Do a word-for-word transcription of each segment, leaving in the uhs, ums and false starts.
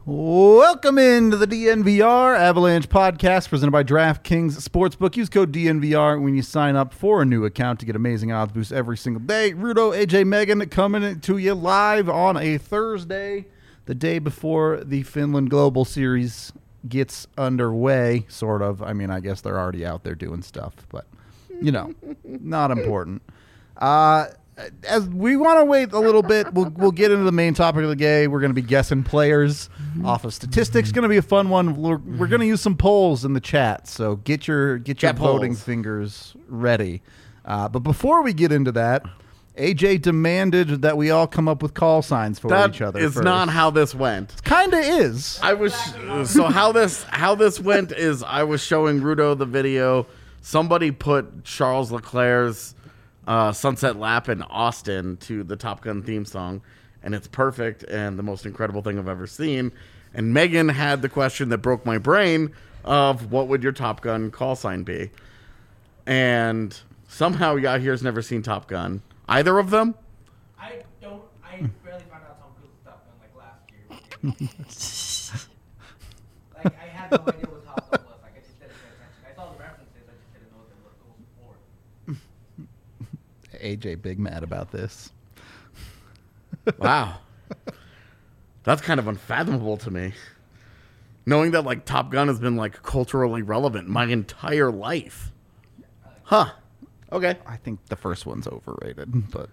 Welcome into the D N V R Avalanche podcast presented by DraftKings Sportsbook. Use code D N V R when you sign up for a new account to get amazing odds boosts every single day. Rudo, A J, Megan coming to you live on a Thursday, the day before the Finland Global Series gets underway, sort of. I mean, I guess they're already out there doing stuff, but, you know, not important. Uh... As we want to wait a little bit, we'll we'll get into the main topic of the day. We're going to be guessing players off of statistics. Going to be a fun one. We're, we're going to use some polls in the chat, so get your get your Chat voting polls. fingers ready. Uh, but before we get into that, A J demanded that we all come up with call signs for That each other. is first. not how this went. Kinda is. I was so how this how this went is I was showing Rudo the video. Somebody put Charles Leclerc's uh, Sunset Lap in Austin to the Top Gun theme song, and it's perfect and the most incredible thing I've ever seen. And Megan had the question that broke my brain of what would your Top Gun call sign be? And somehow y'all here's never seen Top Gun. Either of them? I don't. I barely found out Tom Cruise stuff in like last year. Like I had no idea what Top Gun was. Like I just didn't pay attention. I saw the references. I just didn't know what they were for. A J big mad about this. Wow. That's kind of unfathomable to me. Knowing that like Top Gun has been like culturally relevant my entire life. Huh. Okay. I think the first one's overrated, but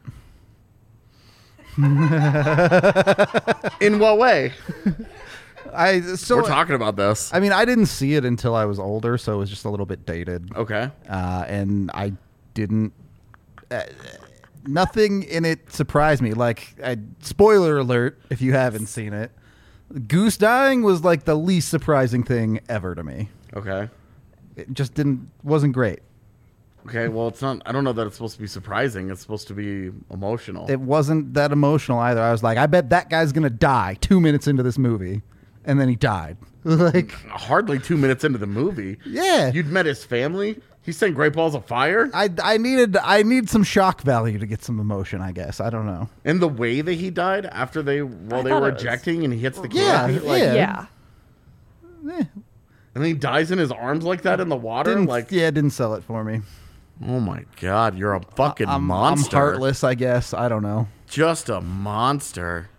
In what way? I so We're talking about this. I mean, I didn't see it until I was older, so it was just a little bit dated. Okay. Uh, and I didn't. Uh, nothing in it surprised me. Like, I, spoiler alert, if you haven't seen it, Goose dying was like the least surprising thing ever to me. Okay. It just didn't wasn't great. Okay. Well, it's not. I don't know that it's supposed to be surprising. It's supposed to be emotional. It wasn't that emotional either. I was like, I bet that guy's gonna die two minutes into this movie, and then he died. Like, Hardly two minutes into the movie. yeah. You'd met his family. He's saying Great Balls of Fire. I, I needed I need some shock value to get some emotion, I guess. I don't know. And the way that he died after they while I they thought were it was- ejecting and he hits the Yeah, canopy, like, yeah. Yeah. Eh, and then he dies in his arms like that in the water. didn't, Like, yeah, it didn't sell it for me. oh my God, you're a fucking I'm, monster. I'm heartless, I guess. I don't know. Just a monster.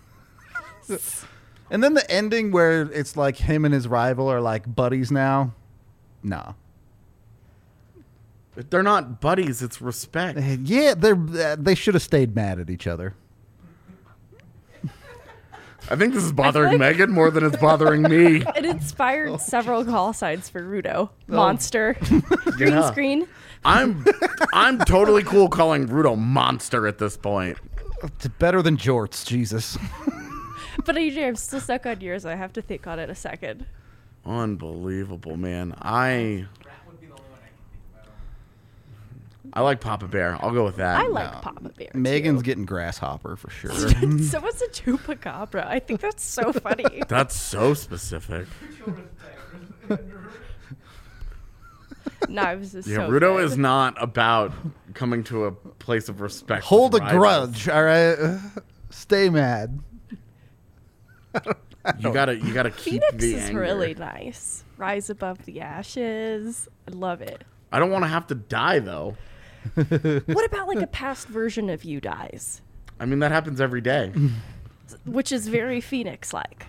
And then the ending where it's like him and his rival are like buddies now. No. They're not buddies. It's respect. Yeah, they're uh, they should have stayed mad at each other. I think this is bothering like- Megan more than it's bothering me. It inspired several call signs for Rudo. Monster. Green Yeah. screen. I'm I'm totally cool calling Rudo monster at this point. It's better than jorts, Jesus. But A J, I'm still stuck on yours. I have to think on it a second. Unbelievable, man. I Rat would be the only one I can think about. I like Papa Bear. I'll go with that. I like Papa Bear. too. Megan's getting grasshopper for sure. So what's a chupacabra? I think that's so funny. That's so specific. Children's tales. Knives is Yeah, so Rudo good. is not about coming to a place of respect. Hold a with rivals. grudge, all right? Stay mad. You gotta you gotta keep Phoenix the is anger. really nice. Rise above the ashes. I love it. I don't want to have to die though. What about like a past version of you dies? I mean that happens every day. Which is very Phoenix-like.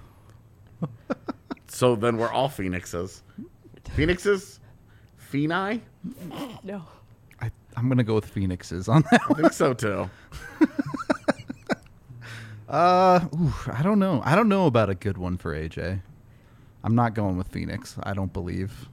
So then we're all phoenixes. Phoenixes? Phoeni? No. I, I'm going to go with Phoenixes on that. I think so too. Uh, ooh, I don't know. I don't know about a good one for A J. I'm not going with Phoenix. I don't believe.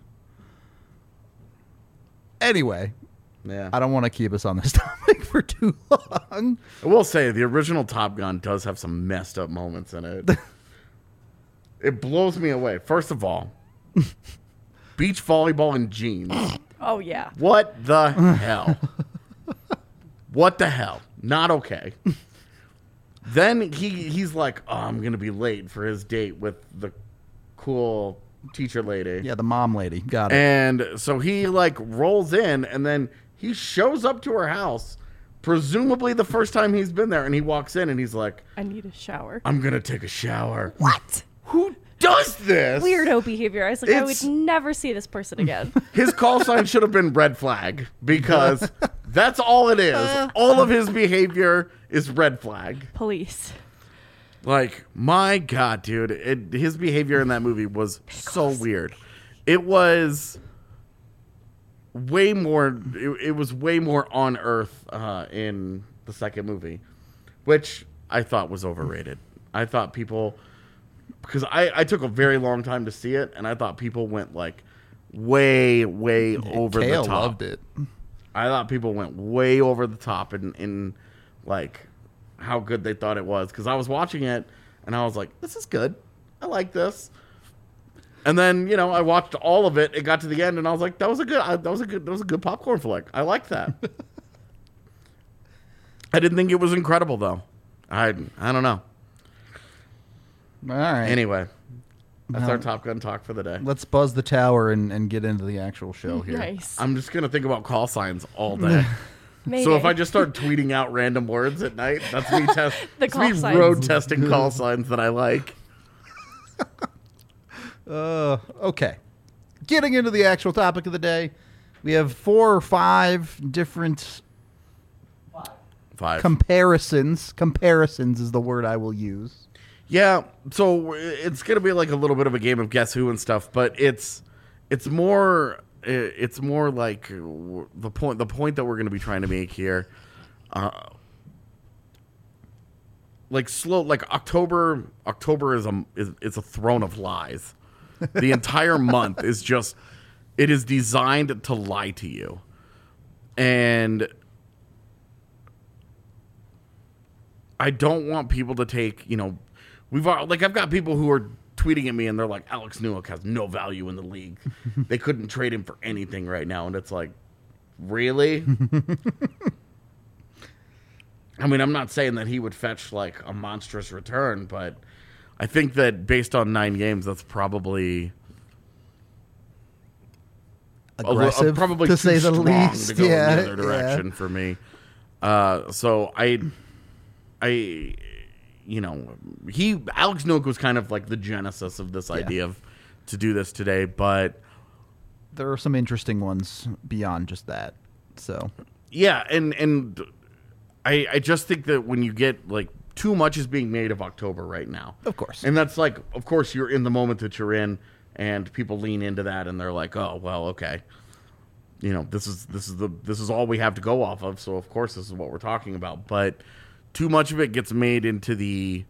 Anyway, Yeah. I don't want to keep us on this topic for too long. I will say the original Top Gun does have some messed up moments in it. It blows me away. First of all, beach volleyball in jeans. Oh yeah. What the hell? What the hell? Not okay. Then he he's like, oh, I'm gonna be late for his date with the cool teacher lady. Yeah, the mom lady. Got it. And so he like rolls in and then he shows up to her house, presumably the first time he's been there, and he walks in and he's like, I need a shower. I'm gonna take a shower. What? who does this? Weirdo behavior. I was like, I It's- would never see this person again. His call sign should have been red flag because that's all it is. All of his behavior is red flag. Police. Like, my God, dude. It, his behavior in that movie was so weird. It was way more, it, it was way more on Earth uh, in the second movie, which I thought was overrated. I thought people, because I, I took a very long time to see it, and I thought people went, like, way, way over Kale the top. loved it. I thought people went way over the top in, in like, how good they thought it was. Because I was watching it, and I was like, this is good. I like this. And then, you know, I watched all of it. It got to the end, and I was like, that was a good, I, that was a good, that was a good popcorn flick. I liked that. I didn't think it was incredible, though. I, I don't know. All right. Anyway, that's Well, our Top Gun talk for the day. Let's buzz the tower and, and get into the actual show here. Nice. I'm just going to think about call signs all day. Mayday. So if I just start tweeting out random words at night, that's me, test, The that's call me signs. road testing call signs that I like. Uh, okay. Getting into the actual topic of the day, we have four or five different Five. Five. comparisons. Comparisons is the word I will use. Yeah, so it's gonna be like a little bit of a game of guess who and stuff, but it's it's more it's more like the point the point that we're gonna be trying to make here. Uh, like slow, like October. October is a is it's a throne of lies. The entire month is just it is designed to lie to you, and I don't want people to take you know. We've al- like I've got people who are tweeting at me and they're like, Alex Newhook has no value in the league. They couldn't trade him for anything right now, and it's like, really? I mean, I'm not saying that he would fetch like a monstrous return, but I think that based on nine games, that's probably a li- Aggressive, probably to too say the strong least. to go Yeah, in the other direction yeah. for me. Uh, so I, I, you know, he Alex Newhook was kind of like the genesis of this idea of to do this today, but There are some interesting ones beyond just that. So, yeah, and and I I just think that when you get like too much is being made of October right now, of course. and that's like, of course, you're in the moment that you're in, and people lean into that, and they're like, oh well, okay, you know, this is this is the this is all we have to go off of, so of course this is what we're talking about, but too much of it gets made into the,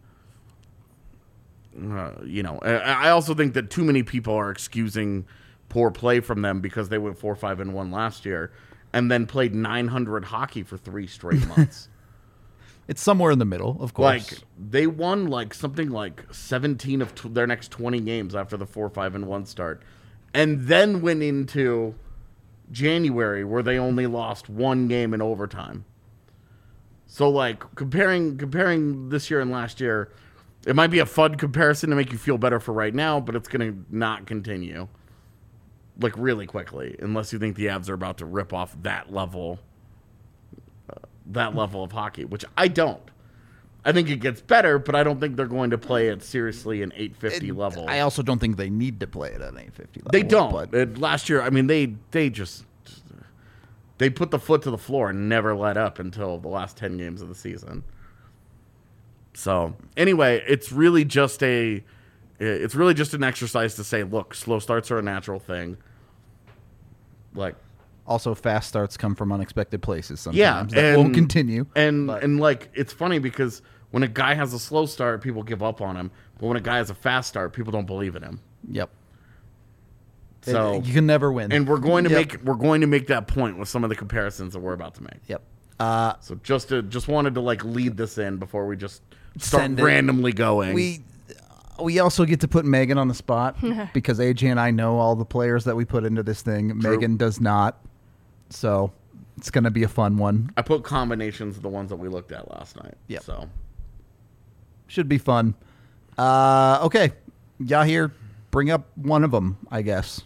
uh, you know, I, I also think that too many people are excusing poor play from them because they went four, five, and one last year, and then played nine hundred hockey for three straight months. It's somewhere in the middle, of course. Like they won like something like seventeen of t- their next twenty games after the four, five, and one start, and then went into January where they only lost one game in overtime. So like comparing comparing this year and last year, it might be a fun comparison to make you feel better for right now, but it's gonna not continue like really quickly unless you think the Avs are about to rip off that level. that level of hockey, which I don't. I think it gets better, but I don't think they're going to play it seriously an eight fifty It- level. I also don't think they need to play it at an eight fifty level. they don't. But Uh, last year, I mean, they they just they put the foot to the floor and never let up until the last ten games of the season. So anyway, it's really just a it's really just an exercise to say, look, slow starts are a natural thing. Like. also, fast starts come from unexpected places sometimes. Yeah, that and, won't continue. And but- and like it's funny because when a guy has a slow start, people give up on him. But when a guy has a fast start, people don't believe in him. Yep. So It- you can never win. and we're going to Yep. make we're going to make that point with some of the comparisons that we're about to make. Yep. Uh, So just to just wanted to like lead this in before we just start Send it. randomly going. we we also get to put Megan on the spot because A J and I know all the players that we put into this thing. True. Megan does not. So it's going to be a fun one. I put combinations of the ones that we looked at last night. Yep. So Should be fun. Uh, okay. Yahir, bring up one of them, I guess.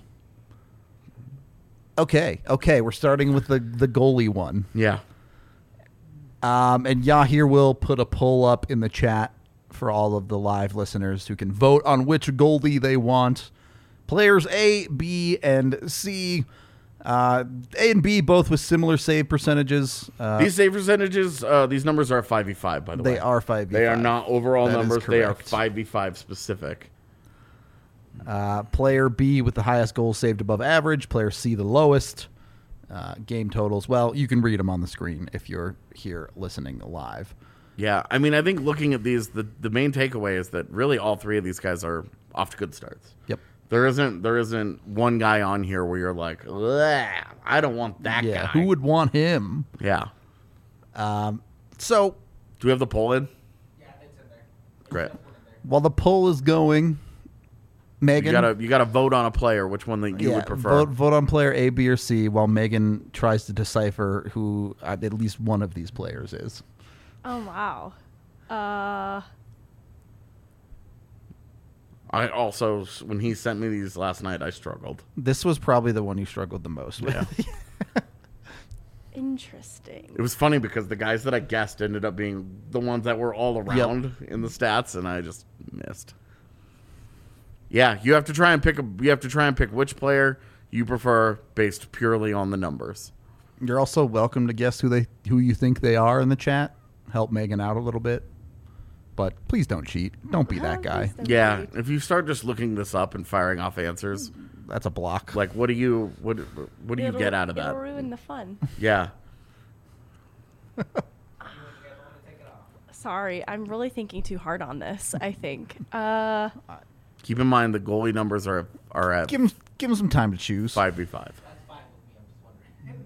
Okay. Okay. We're starting with the, the goalie one. yeah. Um, and Yahir will put a poll up in the chat for all of the live listeners who can vote on which goalie they want. Players A, B, and C. Uh, A and B both with similar save percentages. Uh, These save percentages, uh, these numbers are five v five, by the way. they are five v five. They are not overall That is numbers. They are correct. five v five specific. Uh, player B with the highest goals saved above average. Player C the lowest. Uh, game totals. Well, you can read them on the screen if you're here listening live. Yeah, I mean, I think looking at these, the, the main takeaway is that really all three of these guys are off to good starts. Yep. There isn't there isn't one guy on here where you're like, "Ugh, I don't want that Yeah. guy. Who would want him? Yeah. So Do we have the poll in? Yeah, it's in there. It's Great. just one in there. while the poll is going, Megan, You gotta you gotta vote on a player, which one that you yeah, would prefer. vote vote on player A, B, or C, while Megan tries to decipher who uh, at least one of these players is. Oh wow. Uh, I also, when he sent me these last night, I struggled. This was probably the one you struggled the most with. Yeah. interesting. It was funny because the guys that I guessed ended up being the ones that were all around in the stats, and I just missed. Yeah, you have to try and pick a. You have to try and pick which player you prefer based purely on the numbers. You're also welcome to guess who they who you think they are in the chat. Help Megan out a little bit. But please don't cheat. Don't be that Oh, guy. please don't Yeah, cheat. if you start just looking this up and firing off answers, That's a block. like what do you what what do you It'll- get out of It'll that? ruin the fun. Yeah, You guys want to take it off? Sorry, I'm really thinking too hard on this. I think. Uh, keep in mind the goalie numbers are are at give him give him some time to choose. five v five. That's fine with me. I'm just wondering.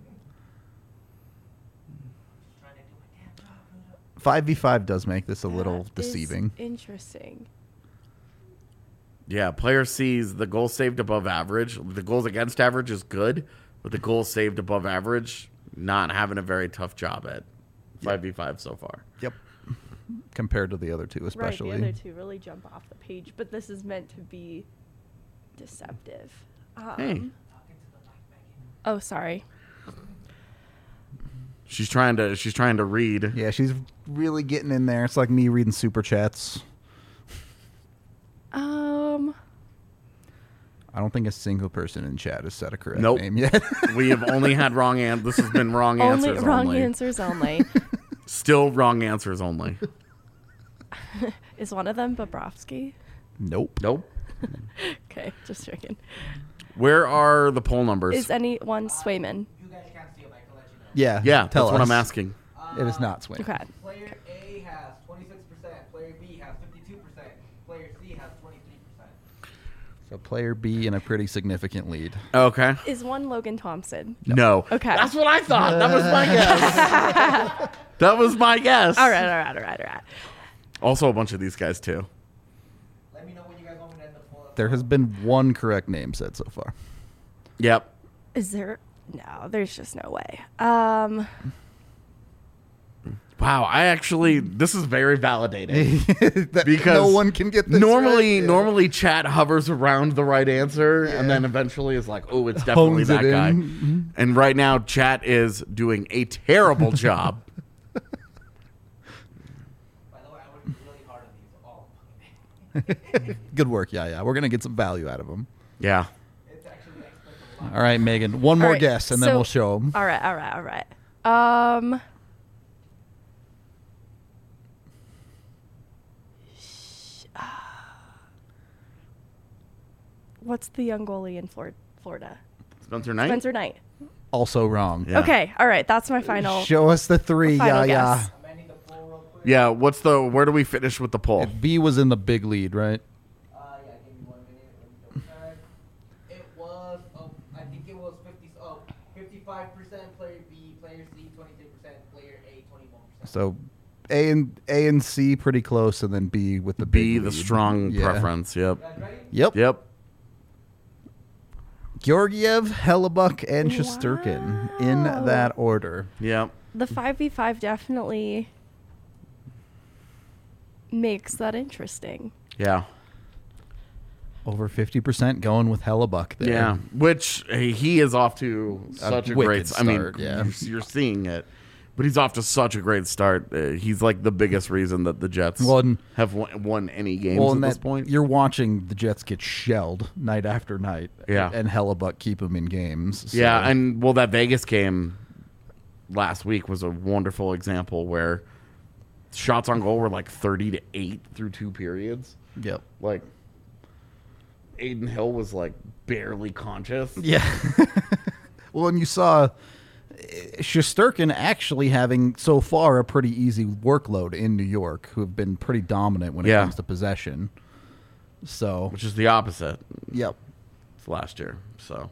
Just trying to do my damn job. Rudo. Five v five does make this a that little is deceiving. Interesting. Yeah, player C's the goal saved above average. The goals against average is good, but the goals saved above average, not having a very tough job at five v five so far. Yep. Compared to the other two, especially. Right, the other two really jump off the page, but this is meant to be deceptive. Um, Hey. Talking to the mic, Megan. Oh, sorry. She's trying to she's trying to read. Yeah, she's really getting in there. It's like me reading super chats. Um, I don't think a single person in chat has said a correct Nope. name yet. We have only had wrong an This has been wrong only answers wrong only. answers only. Still wrong answers only. Is one of them Bobrovsky? Nope. Nope. Okay, just checking. Where are the poll numbers? Is anyone Swayman? You guys can't see it, but I can let you know. Yeah. yeah, tell that's what us. I'm asking. It is not swing. Okay. Player A has twenty-six percent. Player B has fifty-two percent. Player C has twenty-three percent. So player B in a pretty significant lead. Okay. Is one Logan Thompson? No. Okay. That's what I thought. That was my guess. That was my guess. All right, all right, all right, all right. Also a bunch of these guys too. Let me know when you guys want me to end the poll. There has been one correct name said so far. Yep. Is there? No, there's just no way. Um, Wow, I actually this is very validating. That Because no one can get this normally right. normally chat hovers around the right answer and then eventually is like, oh, it's definitely Hones that it guy. in. Mhm. And right now chat is doing a terrible job. By the way, I worked really hard on these all. Good work. Yeah, yeah. We're going to get some value out of them. Yeah. It's actually explains a lot. All right, Megan. One more all right, guess, and then so- we'll show them. All right, all right, all right. Um, sh- ah. what's the young goalie in Flor- Florida? Spencer Knight? Spencer Knight. Also wrong. Yeah. Okay, all right. That's my final. Show us the three. Yeah, Final yeah. guess. I'm ending the poll real quick. Yeah, what's the where do we finish with the poll? B was in the big lead, right? Uh, yeah, give me one minute. Let me double check. It was, oh, I think it was fifty, oh, fifty-five percent player B, player C, twenty-three percent, player A, twenty-one percent. So A and A and C pretty close, and then B with the B, big the lead. strong Yeah. preference. Yep. You guys ready? Yep. Yep. Georgiev, Hellebuck, and Shesterkin in Wow. that order. Yep. The five v five definitely makes that interesting. Yeah. Over fifty percent going with Hellebuck there. Yeah. Which hey, he is off to such a, great wicked s- I mean, start, yeah. you're, you're seeing it. But he's off to such a great start. Uh, he's like the biggest reason that the Jets Well, and- have won, won any games Well, at and this that, point. you're watching the Jets get shelled night after night. Yeah. And Hellebuck keep them in games. So. Yeah, and well, that Vegas game last week was a wonderful example where shots on goal were like thirty to eight through two periods. Yep. Like Aiden Hill was like barely conscious. Yeah. Well, and you saw uh, Shesterkin actually having so far a pretty easy workload in New York, who have been pretty dominant when it Yeah. comes to possession. So, Which is the opposite yep. last year. So,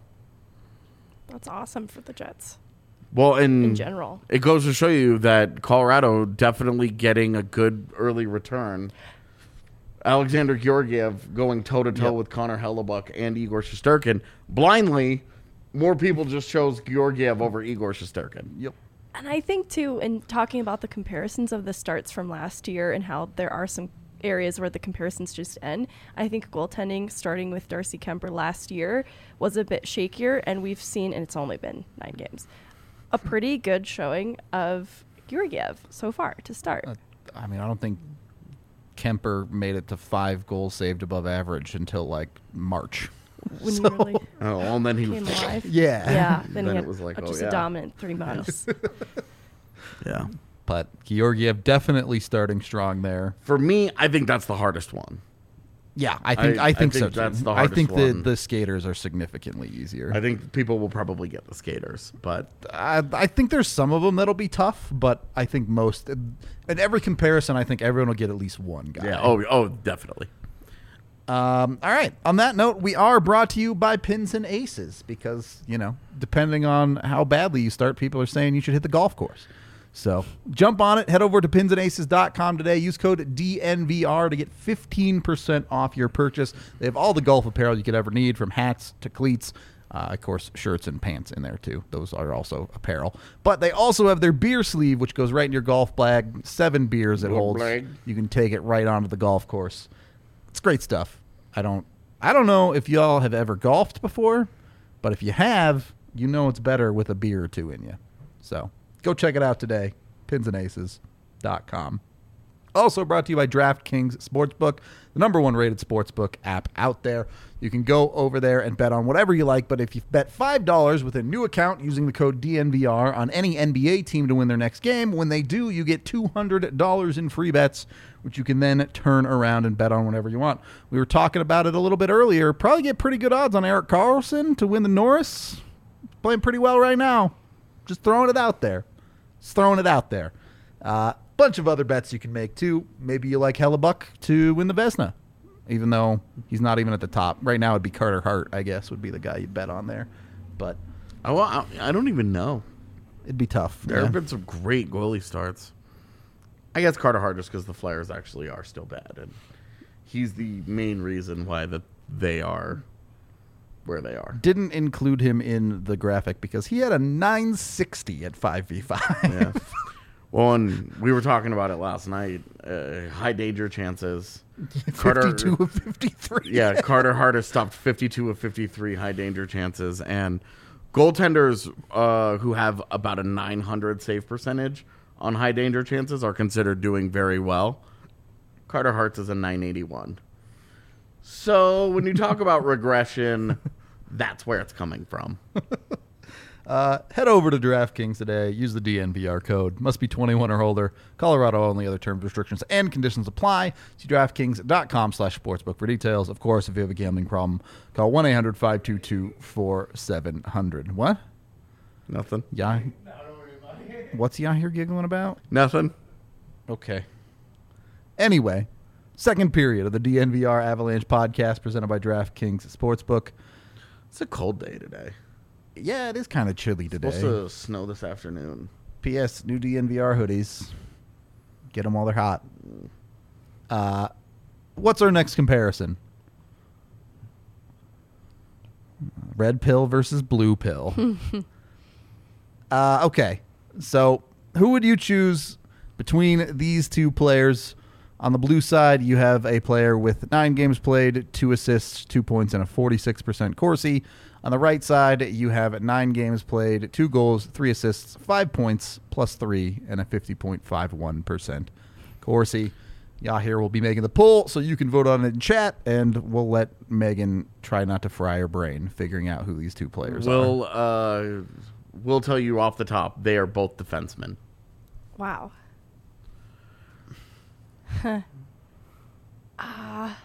That's awesome for the Jets well, and in general. it goes to show you that Colorado definitely getting a good early return. Alexander Georgiev going toe-to-toe Yep. with Connor Hellebuck and Igor Shesterkin. Blindly, more people just chose Georgiev over Igor Shesterkin. Yep. And I think, too, in talking about the comparisons of the starts from last year and how there are some areas where the comparisons just end, I think goaltending, starting with Darcy Kemper last year, was a bit shakier, and we've seen, and it's only been nine games, a pretty good showing of Georgiev so far to start. Uh, I mean, I don't think Kemper made it to five goals saved above average until like March. when so- you really Oh, and then he came alive. Yeah. Yeah, then, Then he it had was like, a- oh, just yeah. a dominant three months. Yeah. But Georgiev definitely starting strong there. For me, I think that's the hardest one. Yeah, I think I- I, think I so think too. that's the I hardest think the, one. the skaters are significantly easier. I think people will probably get the skaters, but I, I think there's some of them that'll be tough, but I think most, in every comparison, I think everyone will get at least one guy. yeah, oh, oh, definitely. Um, all right. On that note, we are brought to you by Pins and Aces because, you know, depending on how badly you start, people are saying you should hit the golf course. So jump on it. Head over to pins and aces dot com today. Use code D N V R to get fifteen percent off your purchase. They have all the golf apparel you could ever need, from hats to cleats. Uh, of course, shirts and pants in there, too. Those are also apparel. But they also have their beer sleeve, which goes right in your golf bag. Seven beers it Little holds. bag. You can take it right onto the golf course. It's great stuff. I don't I don't know if y'all have ever golfed before, but if you have, you know it's better with a beer or two in you. So go check it out today. pins and aces dot com. Also brought to you by DraftKings Sportsbook, the number one rated sportsbook app out there. You can go over there and bet on whatever you like, but if you bet five dollars with a new account using the code D N V R on any N B A team to win their next game, when they do, you get two hundred dollars in free bets, which you can then turn around and bet on whenever you want. We were talking about it a little bit earlier. Probably get pretty good odds on Erik Karlsson to win the Norris. Playing pretty well right now. Just throwing it out there. Just throwing it out there. Uh, bunch of other bets you can make, too. Maybe you like Hellebuck to win the Vezina, even though he's not even at the top. Right now, it'd be Carter Hart, I guess, would be the guy you'd bet on there. But I, well, I, I don't even know. it'd be tough. There Yeah. have been some great goalie starts. I guess Carter Hart just because the Flyers actually are still bad, and he's the main reason why that they are where they are. Didn't include him in the graphic because he had a nine sixty at five v five. Yeah. Well, and we were talking about it last night. Uh, high danger chances. fifty-two of fifty-three. Yeah, Carter Hart has stopped fifty-two of fifty-three high danger chances, and goaltenders uh, who have about a nine hundred save percentage on high danger chances are considered doing very well. Carter Hart's is a nine eighty-one. So when you talk about regression, that's where it's coming from. Uh, head over to DraftKings today. Use the D N V R code. Must be twenty-one or older. Colorado only. Other terms, restrictions, and conditions apply. See DraftKings dot com slash sportsbook for details. Of course, if you have a gambling problem, call one eight hundred five two two four seven zero zero. What? Nothing. Yeah. What's Yahir giggling about? Nothing. Okay. Anyway, second period of the D N V R Avalanche podcast presented by DraftKings Sportsbook. It's a cold day today. Yeah, it is kind of chilly today. Supposed to snow this afternoon. P S. New D N V R hoodies. Get them while they're hot. Uh, what's our next comparison? Red pill versus blue pill. uh, okay, so who would you choose between these two players On the blue side, you have a player with nine games played, two assists, two points, and a forty-six percent Corsi. On the right side, you have nine games played, two goals, three assists, five points, plus three, and a fifty point five one percent Corsi. Yahir will be making the poll, so you can vote on it in chat, and we'll let Megan try not to fry her brain figuring out who these two players We'll are. uh, we'll tell you off the top. They are both defensemen. Wow. Huh. Ah.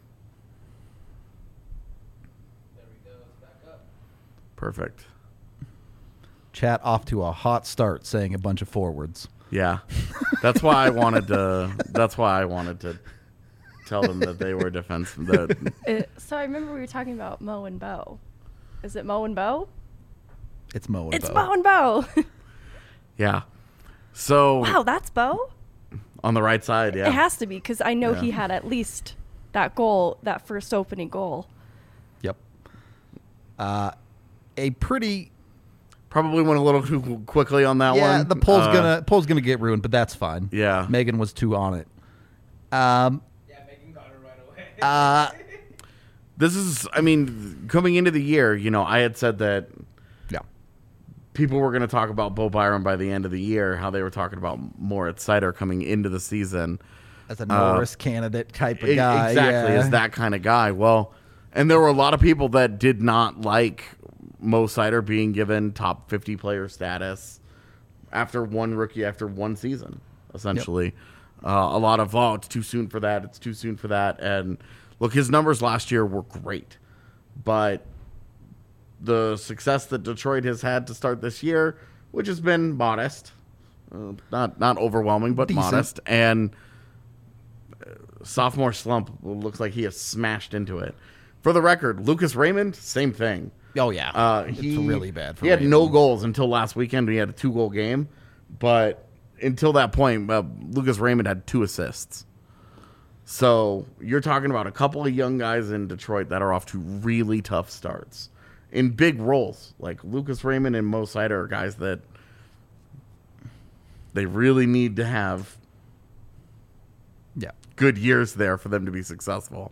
There we go. It's back up. Perfect. Chat off to a hot start, saying a bunch of forwards. Yeah, that's why I wanted to. That's why I wanted to tell them that they were defense. That It, so I remember we were talking about Mo and Bo. Is it Mo and Bo? It's Mo and It's Bo. Mo and Bo. yeah. So Wow, that's Bo? on the right side, yeah. It has to be because I know Yeah. he had at least that goal, that first opening goal. Yep. Uh, a pretty Probably went a little too quickly on that yeah. one. The poll's Uh, gonna poll's gonna get ruined, but that's fine. Yeah. Megan was too on it. Um. Yeah, Megan got it right away. Uh. This is, I mean, coming into the year, you know, I had said that Yeah. people were going to talk about Bo Byram by the end of the year, how they were talking about Moritz Seider coming into the season. As a Norris candidate type of E- guy. Exactly, yeah. as that kind of guy. Well, and there were a lot of people that did not like Mo Seider being given top fifty player status after one rookie, after one season, essentially. Uh, a lot of, oh, it's too soon for that, it's too soon for that. And look, his numbers last year were great, but the success that Detroit has had to start this year, which has been modest, uh, not not overwhelming, but Decent. modest, and uh, sophomore slump looks like he has smashed into it. For the record, Lucas Raymond, same thing. Oh yeah. Uh, it's he, really bad. For he had Raymond. no goals until last weekend. He had a two goal game, but until that point, uh, Lucas Raymond had two assists. So you're talking about a couple of young guys in Detroit that are off to really tough starts in big roles. Like Lucas Raymond and Mo Seider are guys that they really need to have Yeah. good years there for them to be successful.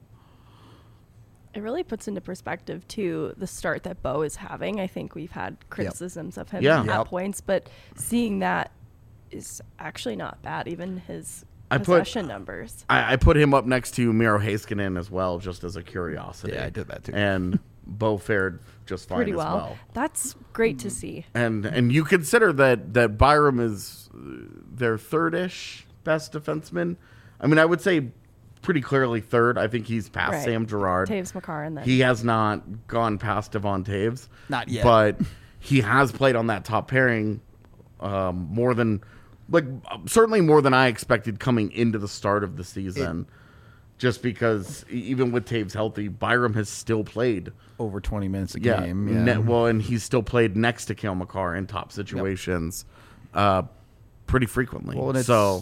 It really puts into perspective, too, the start that Bo is having. I think we've had criticisms of him Yeah. at Yep. points, but seeing that is actually not bad, even his I put- possession numbers. I, I put him up next to Miro Heiskanen as well, just as a curiosity. Yeah, I did that too. And Bo fared just fine Pretty as well. well. That's great to see. And and you consider that that Byram is uh, their third-ish best defenseman. I mean, I would say pretty clearly third. I think he's past Right. Sam Girard. Taves McCarr and then He has not gone past Devon Taves. Not yet. But he has played on that top pairing um, more than, like, certainly more than I expected coming into the start of the season. Just because e- even with Taves healthy, Byram has still played. Over twenty minutes a Yeah, game. Yeah. ne- well, and he's still played next to Cale Makar in top situations uh, pretty frequently. Well, and it's- so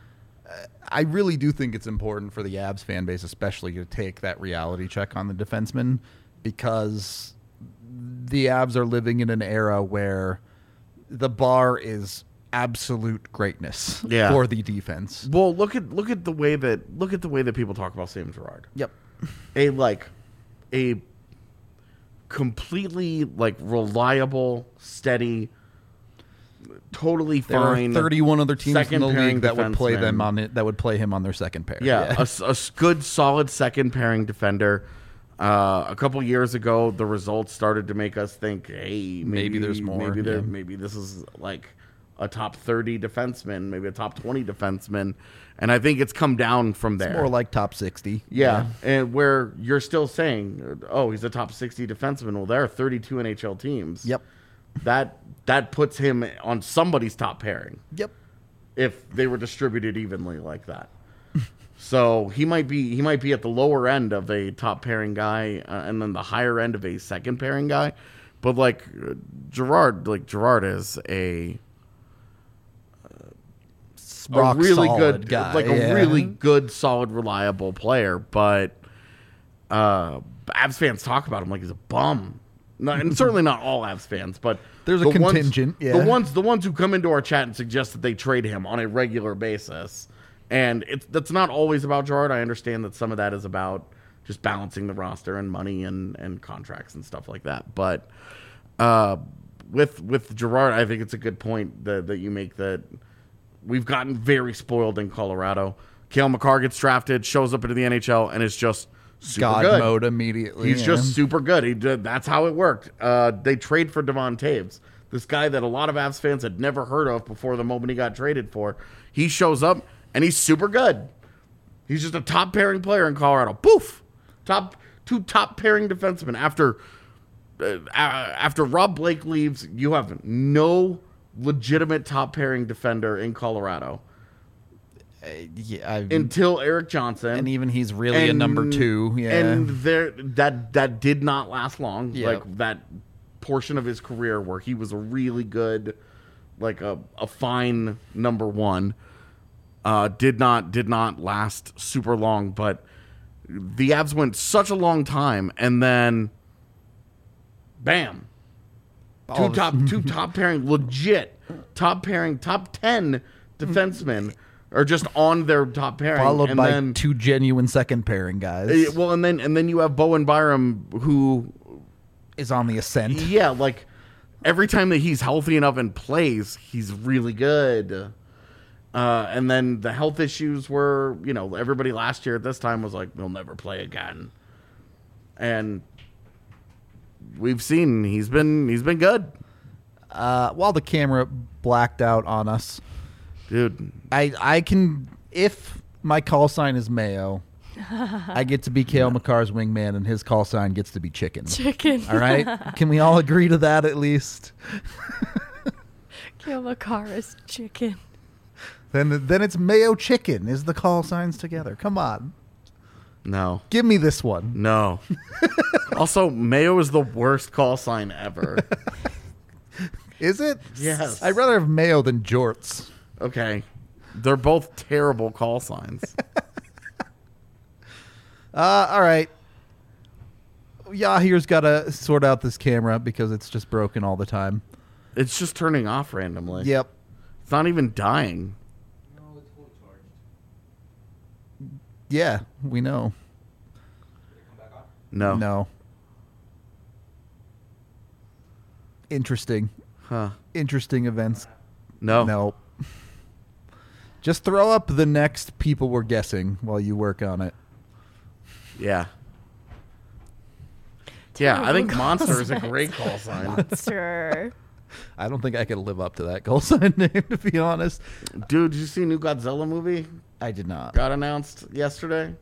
I really do think it's important for the Avs fan base, especially, to take that reality check on the defenseman, because the Avs are living in an era where the bar is absolute greatness Yeah. for the defense. well, look at look at the way that look at the way that people talk about Sam Girard. Yep. A like a completely like reliable, steady, totally There fine. are thirty-one other teams in second the pairing league that would play them defenseman. on it. That would play him on their second pair. Yeah, a s- a, s- good, solid second pairing defender. Uh, a couple years ago, the results started to make us think, hey, maybe, Maybe there's more, Maybe there, yeah. maybe this is like a top thirty defenseman, maybe a top twenty defenseman, and I think it's come down from there. It's more like top sixty. yeah, and where you're still saying, oh, he's a top sixty defenseman. Well, there are thirty-two N H L teams. Yep. That that puts him on somebody's top pairing Yep. if they were distributed evenly like that. So he might be he might be at the lower end of a top pairing guy, uh, and then the higher end of a second pairing guy. But like uh, Gerard, like Gerard is a, a Rock really solid good guy. like a yeah. really good, solid, reliable player. But uh, Avs fans talk about him like he's a bum. No, and certainly not all Avs fans, but There's a the ones- contingent, yeah. The ones the ones who come into our chat and suggest that they trade him on a regular basis And it's that's not always about Gerard. I understand that some of that is about just balancing the roster and money and, and contracts and stuff like that. But uh, with with Gerard, I think it's a good point that, that you make that we've gotten very spoiled in Colorado. Cale Makar gets drafted, shows up into the N H L, and is just super God good. mode immediately. He's yeah. just super good. He did, that's how it worked. Uh, they trade for Devon Taves, this guy that a lot of Avs fans had never heard of before the moment he got traded for. He shows up, and he's super good. He's just a top pairing player in Colorado. Poof! Top two top pairing defensemen. After uh, after Rob Blake leaves, you have no legitimate top pairing defender in Colorado. Uh, yeah, I, Until Eric Johnson. and even he's really a And- number two. Yeah. And there that that did not last long. Yep. Like that portion of his career where he was a really good, like a, a fine number one, uh, did not did not last super long. But the Avs went such a long time, and then, bam, All two of a top two top pairing legit top pairing top ten defensemen are just on their top pairing, Followed and by then, two genuine second pairing guys. Uh, well, and then and then you have Bowen Byram, who, is on the ascent. yeah, like every time that he's healthy enough and plays, he's really good. Uh, and then the health issues were, you know, everybody last year at this time was like, "He'll never play again," and we've seen he's been he's been good, Uh, while the camera blacked out on us, dude. I I can if my call sign is Mayo, I get to be Cale Makar's wingman, and his call sign gets to be chicken. Chicken. All right, can we all agree to that at least? Cale Makar is chicken. Then then it's Mayo chicken. Is the call signs together? Come on, No, give me this one. no. Also, Mayo is the worst call sign ever. Is it? Yes. I'd rather have Mayo than Jorts. Okay, they're both terrible call signs. Uh, all right. Yahir's got to sort out this camera because it's just broken all the time. It's just turning off randomly. Yep. It's not even dying. No, it's fully charged. Yeah, we know. Did it come back on? No. No. Interesting. Huh. Interesting events. No. No. Just throw up the next people we're guessing while you work on it. Yeah. Yeah, I think Terrible Monster is a call great call sign. Monster. I don't think I could live up to that call sign name, to be honest. Dude, did you see new Godzilla movie? I did not. Got announced yesterday.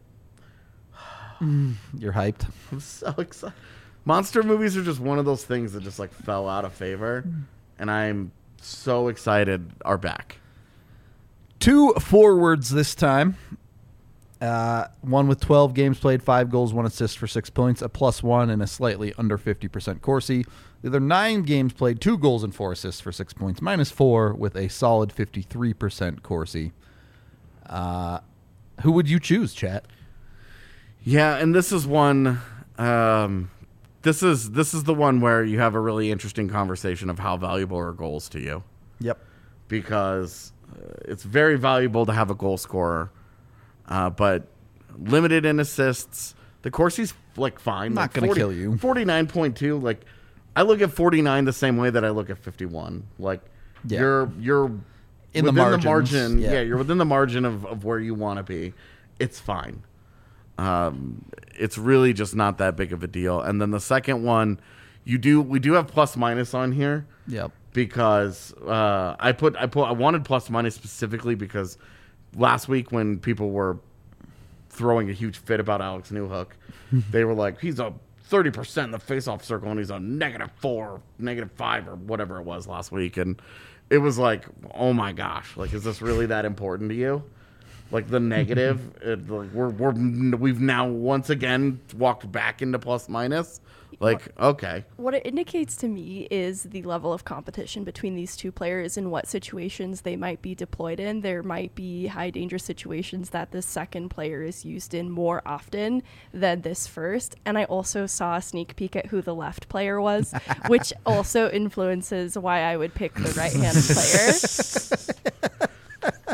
You're hyped. I'm so excited. Monster movies are just one of those things that just like fell out of favor, and I'm so excited are back. Two forwards this time. Uh, one with twelve games played, five goals, one assist for six points, a plus one, and a slightly under fifty percent Corsi. The other nine games played, two goals and four assists for six points, minus four with a solid fifty-three percent Corsi. Uh, who would you choose, chat? Yeah, and this is one. Um, this is this is the one where you have a really interesting conversation of how valuable are goals to you, Yep. because uh, it's very valuable to have a goal scorer, uh, but limited in assists. The Corsi's like fine. Not like gonna forty kill you. forty-nine point two. Like I look at forty-nine the same way that I look at fifty-one. Like Yeah. you're you're In the within margins, margin. yeah. Yeah. you're within the margin of, of where you want to be. It's fine. Um, it's really just not that big of a deal. And then the second one, you do we do have plus minus on here. Yep. Because uh, I put I put I wanted plus minus specifically because last week when people were throwing a huge fit about Alex Newhook, they were like, he's a thirty percent in the face-off circle and he's a negative four, negative five, or whatever it was last week, and it was like, oh my gosh, like is this really that important to you? Like the negative, it, like we're we're we've now once again walked back into plus minus. Like, okay. What it indicates to me is the level of competition between these two players and what situations they might be deployed in. There might be high danger situations that the second player is used in more often than this first. And I also saw a sneak peek at who the left player was, which also influences why I would pick the right-handed player.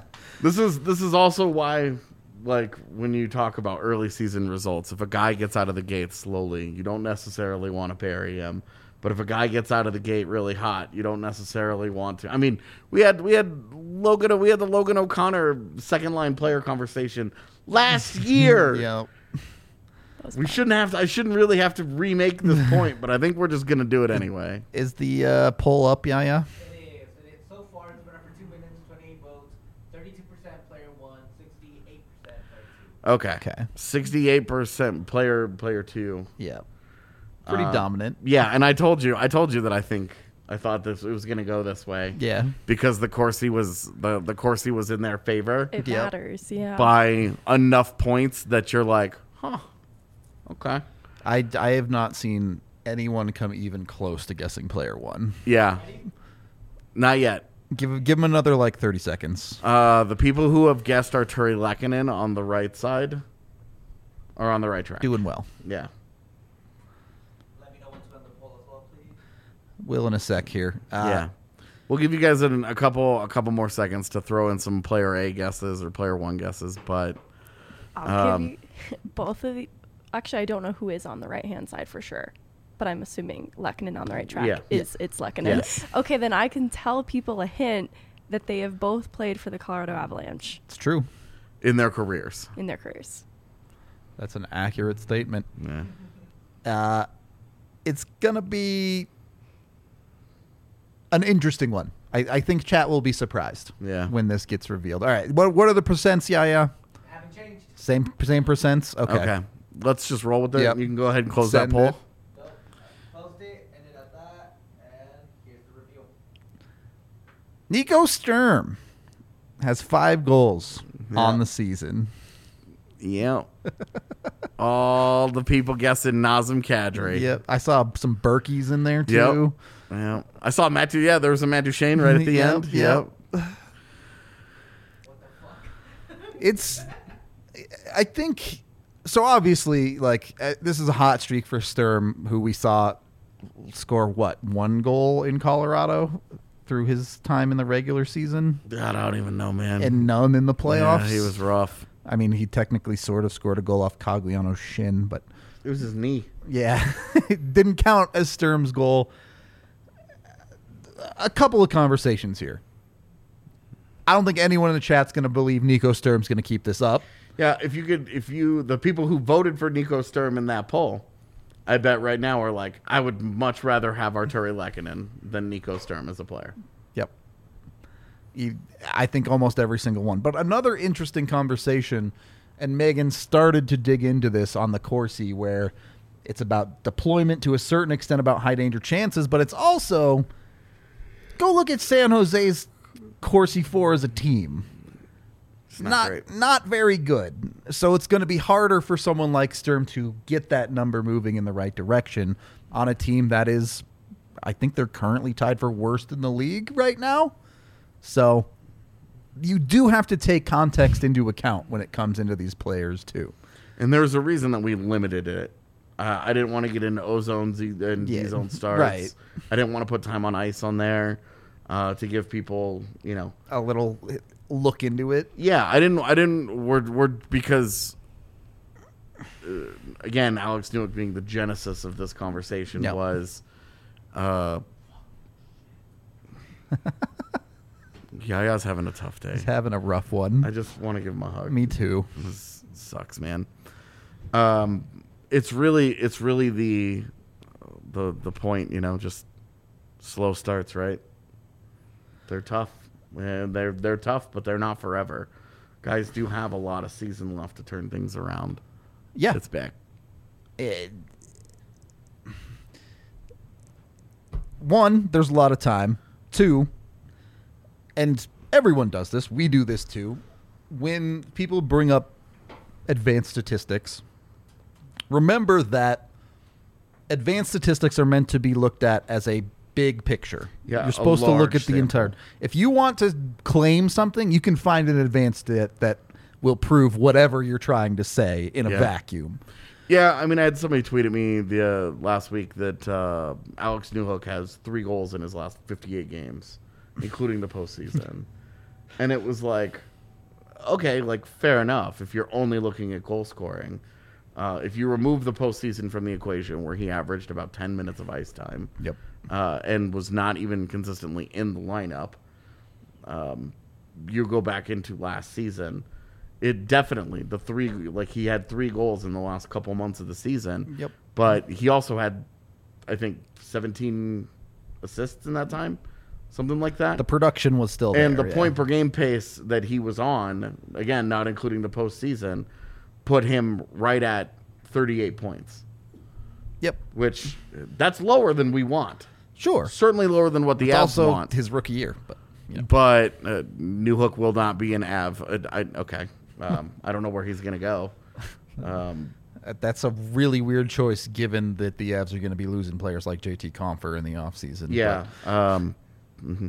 This is this is also why, like, when you talk about early season results, if a guy gets out of the gate slowly, you don't necessarily want to bury him. But if a guy gets out of the gate really hot, you don't necessarily want to. I mean, we had we had Logan we had the Logan O'Connor second line player conversation last year. Yeah. We shouldn't have to, I shouldn't really have to remake this point, but I think we're just gonna do it anyway. Is the uh, poll up, Yaya? It is. It is. So far, it's been up for two minutes, twenty-eight votes, thirty-two percent player one, sixty-eight percent player two. Okay. Okay. Sixty-eight percent player player two. Yeah. Pretty Uh, dominant. Yeah, and I told you, I told you that I think I thought this it was gonna go this way. Yeah. Because the Corsi was the the Corsi was in their favor It Yep. matters, yeah. by enough points that you're like, huh, okay, I, I have not seen anyone come even close to guessing player one. yeah, not yet. Give give him another like thirty seconds. Uh, the people who have guessed Arturi Lehkonen on the right side are on the right track. Doing well. Yeah. Let me know when to end the poll as well, please. Will in a sec here. Uh, Yeah, we'll give you guys an, a couple a couple more seconds to throw in some player A guesses or player one guesses, but I'll um, give you both of the. Actually, I don't know who is on the right hand side for sure, but I'm assuming Lehkonen on the right track Yeah. is it's Lehkonen. Yes. Okay, then I can tell people a hint that they have both played for the Colorado Avalanche It's true. in their careers. in their careers. That's an accurate statement. Yeah. Uh, it's gonna be an interesting one. I, I think chat will be surprised. Yeah. When this gets revealed. All right. What what are the percents, Yaya? Haven't changed. Same same percents. Okay. Okay. Let's just roll with it. Yep. You can go ahead and close Send that poll. it. Nope. I closed it, ended at that, and here's the reveal. Nico Sturm has five goals Yeah. on the season. Yeah. All the people guessing Nazem Kadri. Yep. I saw some Berkeys in there too. Yep. Yeah. I saw Matt. Du- Yeah, there was a Matt Duchene right at the Yep, end. yep. Yep. What the fuck? It's I think so obviously like uh, this is a hot streak for Sturm, who we saw score what, one goal in Colorado through his time in the regular season I don't even know, man. and none in the playoffs. Yeah, he was rough. I mean, he technically sort of scored a goal off Cogliano's shin, but It was his knee. yeah, it didn't count as Sturm's goal. A couple of conversations here. I don't think anyone in the chat's going to believe Nico Sturm's going to keep this up. Yeah, if you could, if you, the people who voted for Nico Sturm in that poll, I bet right now are like, I would much rather have Arturi Lehkonen than Nico Sturm as a player. Yep. You, I think almost every single one. But another interesting conversation, and Megan started to dig into this on the Corsi, where it's about deployment to a certain extent, about high danger chances, but it's also, go look at San Jose's Corsi four as a team. It's not, Not great. not very good. So it's going to be harder for someone like Sturm to get that number moving in the right direction on a team that is, I think they're currently tied for worst in the league right now. So you do have to take context into account when it comes into these players too. And there's a reason that we limited it. Uh, I didn't want to get into ozone Z- and Yeah, Z-zone starts. right. I didn't want to put time on ice on there uh, to give people, you know, A little look into it. yeah, I didn't. I didn't. We're we're because uh, again, Alex Newick being the genesis of this conversation Yep. was, uh, Yaya's having a tough day. He's having a rough one. I just want to give him a hug. Me too. This sucks, man. Um, it's really, it's really the, the, the point. You know, just slow starts, right? They're tough. And they're they're tough, but they're not forever. Guys do have a lot of season left to turn things around. Yeah. It's back. It- one, there's a lot of time. Two, and everyone does this, we do this too, when people bring up advanced statistics, remember that advanced statistics are meant to be looked at as a big picture. Yeah, You're a supposed to look large at the sample. entire. If you want to claim something, you can find an advanced stat that will prove whatever you're trying to say in a Yeah. vacuum. Yeah, I mean, I had somebody tweet at me the uh, last week that uh, Alex Newhook has three goals in his last fifty-eight games, including the postseason, and it was like, okay, like fair enough. If you're only looking at goal scoring, uh, if you remove the postseason from the equation, where he averaged about ten minutes of ice time, Yep. uh, and was not even consistently in the lineup, um, you go back into last season. It definitely the three like he had three goals in the last couple months of the season. Yep. But he also had, I think, seventeen assists in that time, something like that. The production was still there. And the yeah. point per game pace that he was on, again, not including the postseason, put him right at thirty-eight points, Yep. which that's lower than we want. Sure. Certainly lower than what the It's Avs also want. his rookie year, but you know. But uh, Newhook will not be an Av. Uh, I, okay. Um, I don't know where he's going to go. Um, That's a really weird choice, given that the Avs are going to be losing players like J T Compher in the offseason. yeah. Um, mhm.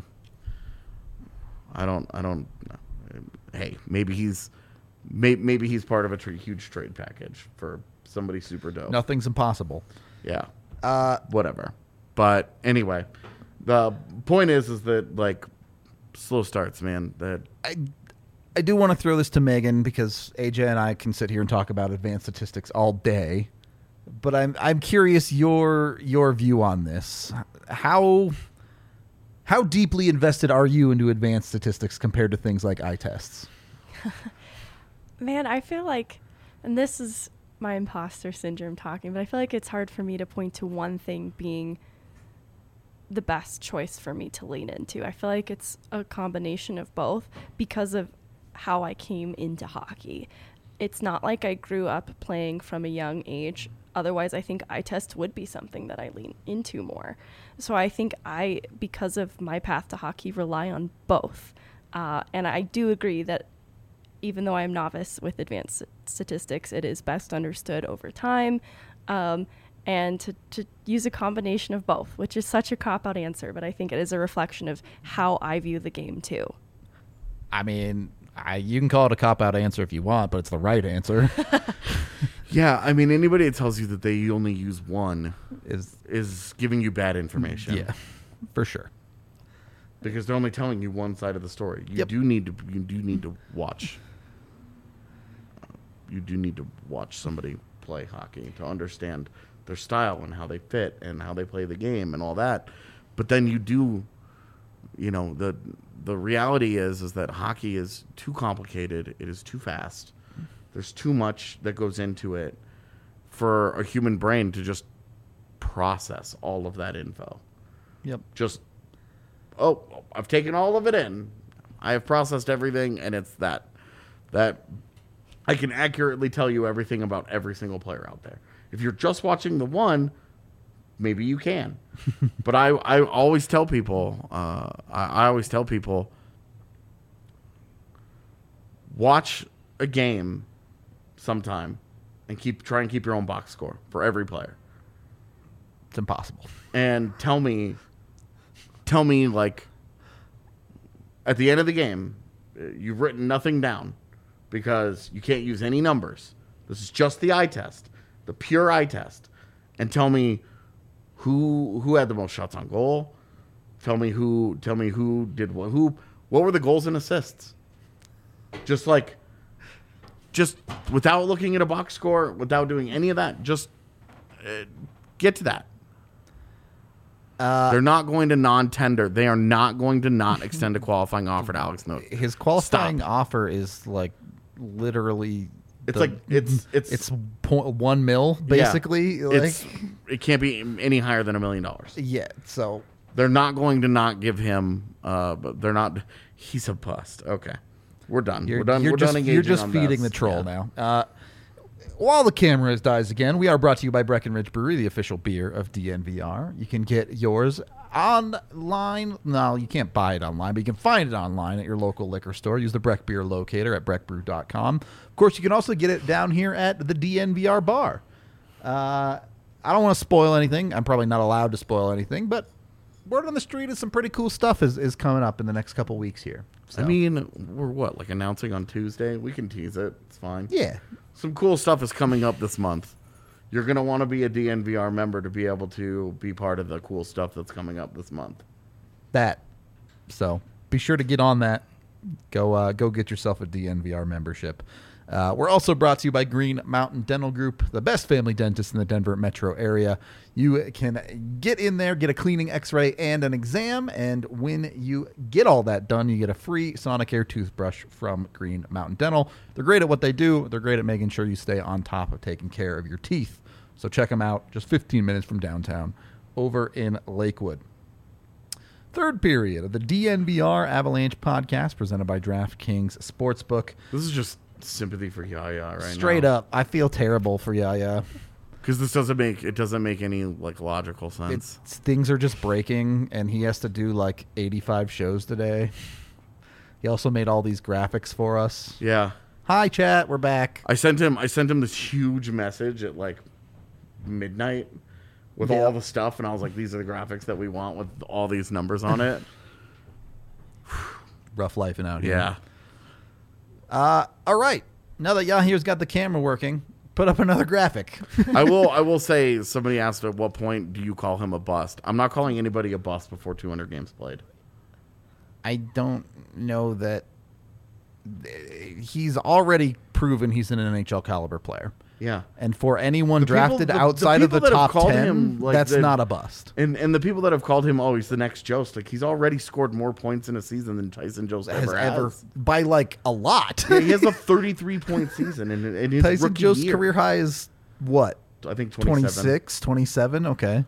I don't. I don't. Hey, maybe he's may, maybe he's part of a tr- huge trade package for somebody super dope. Nothing's impossible. Yeah. Uh, Whatever. But anyway, the point is, is that like slow starts, man. That I, I do want to throw this to Megan because A J and I can sit here and talk about advanced statistics all day, but I'm I'm curious your your view on this. How how deeply invested are you into advanced statistics compared to things like eye tests? Man, I feel like, and this is my imposter syndrome talking, but I feel like it's hard for me to point to one thing being the best choice for me to lean into. I feel like it's a combination of both because of how I came into hockey. It's not like I grew up playing from a young age. Otherwise, I think eye test would be something that I lean into more. So I think I, because of my path to hockey, rely on both. Uh, and I do agree that even though I'm novice with advanced statistics, it is best understood over time. Um, and to, to use a combination of both, which is such a cop-out answer, but I think it is a reflection of how I view the game too. I mean, I, you can call it a cop-out answer if you want, but it's the right answer. yeah, I mean, anybody that tells you that they only use one Is is giving you bad information. yeah, for sure. Because they're only telling you one side of the story. You Yep. do need to. You do need to watch. You do need to watch somebody play hockey to understand their style and how they fit and how they play the game and all that. But then you do, you know, the the reality is is that hockey is too complicated. It is too fast. There's too much that goes into it for a human brain to just process all of that info. Yep. Just, oh, I've taken all of it in. I have processed everything, and it's that. That I can accurately tell you everything about every single player out there. If you're just watching the one, maybe you can. But I, I always tell people, uh, I, I always tell people, watch a game sometime and keep try and keep your own box score for every player. It's impossible. And tell me, tell me, like, at the end of the game, uh, you've written nothing down because you can't use any numbers. This is just the eye test, the pure eye test. And tell me who who had the most shots on goal. Tell me who. Tell me who did what. Who. What were the goals and assists? Just like, just without looking at a box score, without doing any of that, just uh, get to that. Uh, They're not going to non-tender. They are not going to not extend a qualifying offer to Alex Note. his qualifying Stop. offer is like literally. It's the- like it's it's it's point one mil basically. Yeah. Like, It's it can't be any higher than a million dollars. yeah. So They're not going to not give him. Uh, but they're not. He's a bust. Okay, we're done. You're, we're done. You're we're just, done you're engaging just on feeding this. the troll Yeah. now. Uh, while the camera dies again, we are brought to you by Breckenridge Brewery, the official beer of D N V R. You can get yours online. No, you can't buy it online, but you can find it online at your local liquor store. Use the Breck Beer Locator at breck brew dot com. Of course, you can also get it down here at the D N V R bar. Uh, I don't want to spoil anything. I'm probably not allowed to spoil anything, but word on the street is some pretty cool stuff is, is coming up in the next couple weeks here. So, I mean, we're what like announcing on Tuesday. We can tease it. It's fine. yeah. Some cool stuff is coming up this month. You're going to want to be a D N V R member to be able to be part of the cool stuff that's coming up this month. that. So be sure to get on that. Go uh, go get yourself a D N V R membership. Uh, we're also brought to you by Green Mountain Dental Group, the best family dentist in the Denver metro area. You can get in there, get a cleaning, x-ray, and an exam, and when you get all that done, you get a free Sonicare toothbrush from Green Mountain Dental. They're great at what they do. They're great at making sure you stay on top of taking care of your teeth. So check them out, just fifteen minutes from downtown over in Lakewood. Third period of the D N V R Avalanche podcast presented by DraftKings Sportsbook. This is just sympathy for Yaya right now. Straight up, I feel terrible for Yaya. Because this doesn't make it doesn't make any like logical sense. It's, things are just breaking, and he has to do like eighty-five shows today. He also made all these graphics for us. Yeah. Hi, chat. We're back. I sent him I sent him this huge message at like midnight with Yeah. all the stuff, and I was like, these are the graphics that we want with all these numbers on it. Rough life and out here. Yeah. Uh, all right. Now that Yahiro's got the camera working, put up another graphic. I will I will say, somebody asked at what point do you call him a bust? I'm not calling anybody a bust before two hundred games played. I don't know that he's already proven he's an N H L caliber player. Yeah. And for anyone The people- drafted the- the outside of the people that have top called ten, him, like, that's the- not a bust. And and the people that have called him, oh, he's the next Jost, like he's already scored more points in a season than Tyson Jost Has ever ever has. by like a lot. Yeah, he has a thirty-three point season in, in his Tyson rookie Joe's year. career high is what? I think twenty-seven. twenty-six, twenty-seven, okay.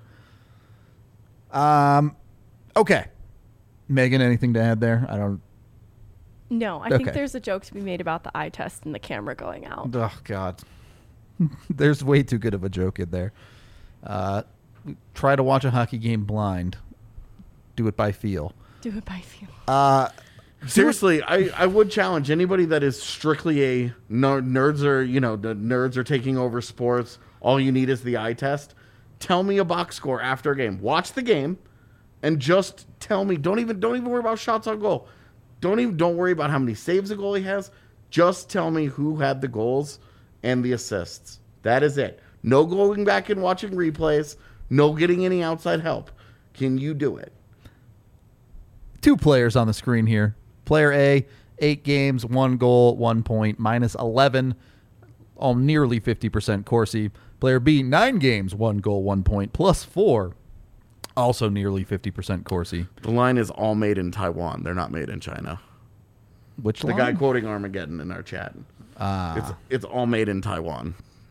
Um okay. Megan, anything to add there? I don't No, I Okay. think there's a joke to be made about the eye test and the camera going out. Oh god. There's way too good of a joke in there. Uh try to watch a hockey game blind. Do it by feel. Do it by feel. Uh Seriously, I, I would challenge anybody that is strictly a ner- nerds are you know the nerds are taking over sports. All you need is the eye test. Tell me a box score after a game. Watch the game, and just tell me. Don't even don't even worry about shots on goal. Don't even don't worry about how many saves a goalie has. Just tell me who had the goals and the assists. That is it. No going back and watching replays. No getting any outside help. Can you do it? two players on the screen here. Player A, eight games, one goal, one point, minus eleven, all nearly fifty percent Corsi. Player B, nine games, one goal, one point, plus four, also nearly fifty percent Corsi. The line is all made in Taiwan. They're not made in China. Which The line? guy quoting Armageddon in our chat. Ah. It's it's all made in Taiwan.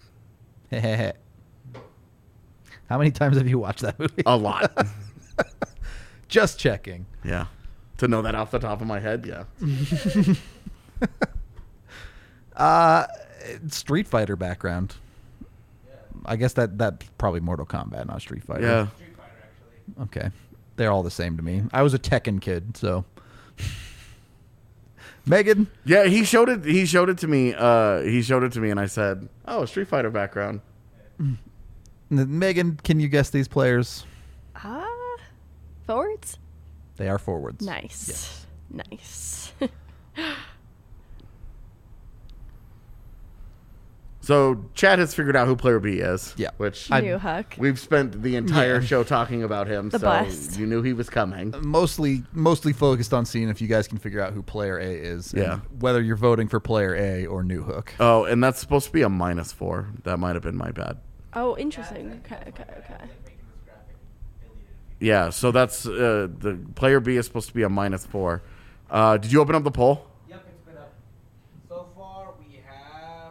How many times have you watched that movie? A lot. Just checking. Yeah. To know that off the top of my head, yeah. Uh, Street Fighter background. I guess that that's probably Mortal Kombat, not Street Fighter. Yeah. Street Fighter, actually. Okay. They're all the same to me. I was a Tekken kid, so. Megan? Yeah, he showed it he showed it to me. Uh he showed it to me and I said, "Oh, Street Fighter background." Megan, can you guess these players? Ah, forwards? They are forwards. Nice. Yes. Nice. So, Chad has figured out who player B is. Yeah. Which I- New Huck. we've spent the entire Yeah. show talking about him, The so bust. you knew he was coming. Mostly, mostly focused on seeing if you guys can figure out who player A is. and Yeah. whether you're voting for player A or New Hook. Oh, and that's supposed to be a minus four. That might have been my bad. Oh, interesting. Okay, okay, okay. Like making this graphic deleted. Yeah, so that's uh, the player B is supposed to be a minus four. Uh, did you open up the poll? Yep, it's been up. So far, we have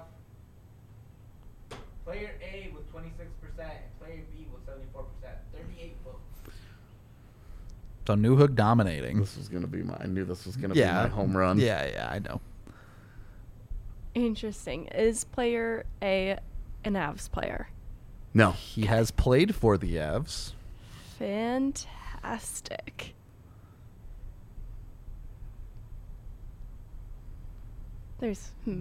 player A with twenty-six percent and player B with seventy-four percent. thirty-eight votes. So New Hook dominating. This was gonna be my. I knew this was gonna yeah. be my home run. Yeah, yeah, I know. Interesting. Is player A an Avs player? No. He has played for the Avs. Fantastic. There's hmm.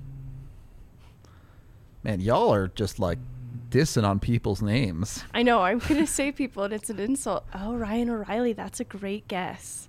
Man, y'all are just like dissing on people's names. I know, I'm gonna say people and it's an insult. Oh, Ryan O'Reilly, that's a great guess.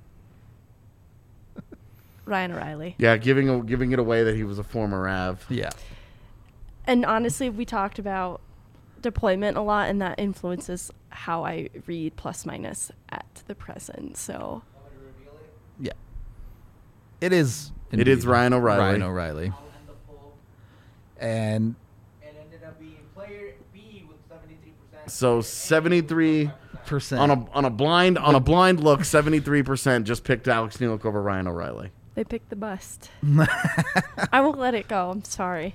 Ryan O'Reilly. Yeah, giving giving it away that he was a former Av. Yeah. And honestly, we talked about deployment a lot, and that influences how I read plus minus at the present. So Want me to reveal it? Yeah. It is. It indeed is Ryan O'Reilly. Ryan O'Reilly. I'll end the poll. And It ended up being player B with seventy-three percent. So seventy-three percent. on a on a blind on a blind look, seventy-three percent just picked Alex Newhook over Ryan O'Reilly. They picked the bust. I won't let it go. I'm sorry.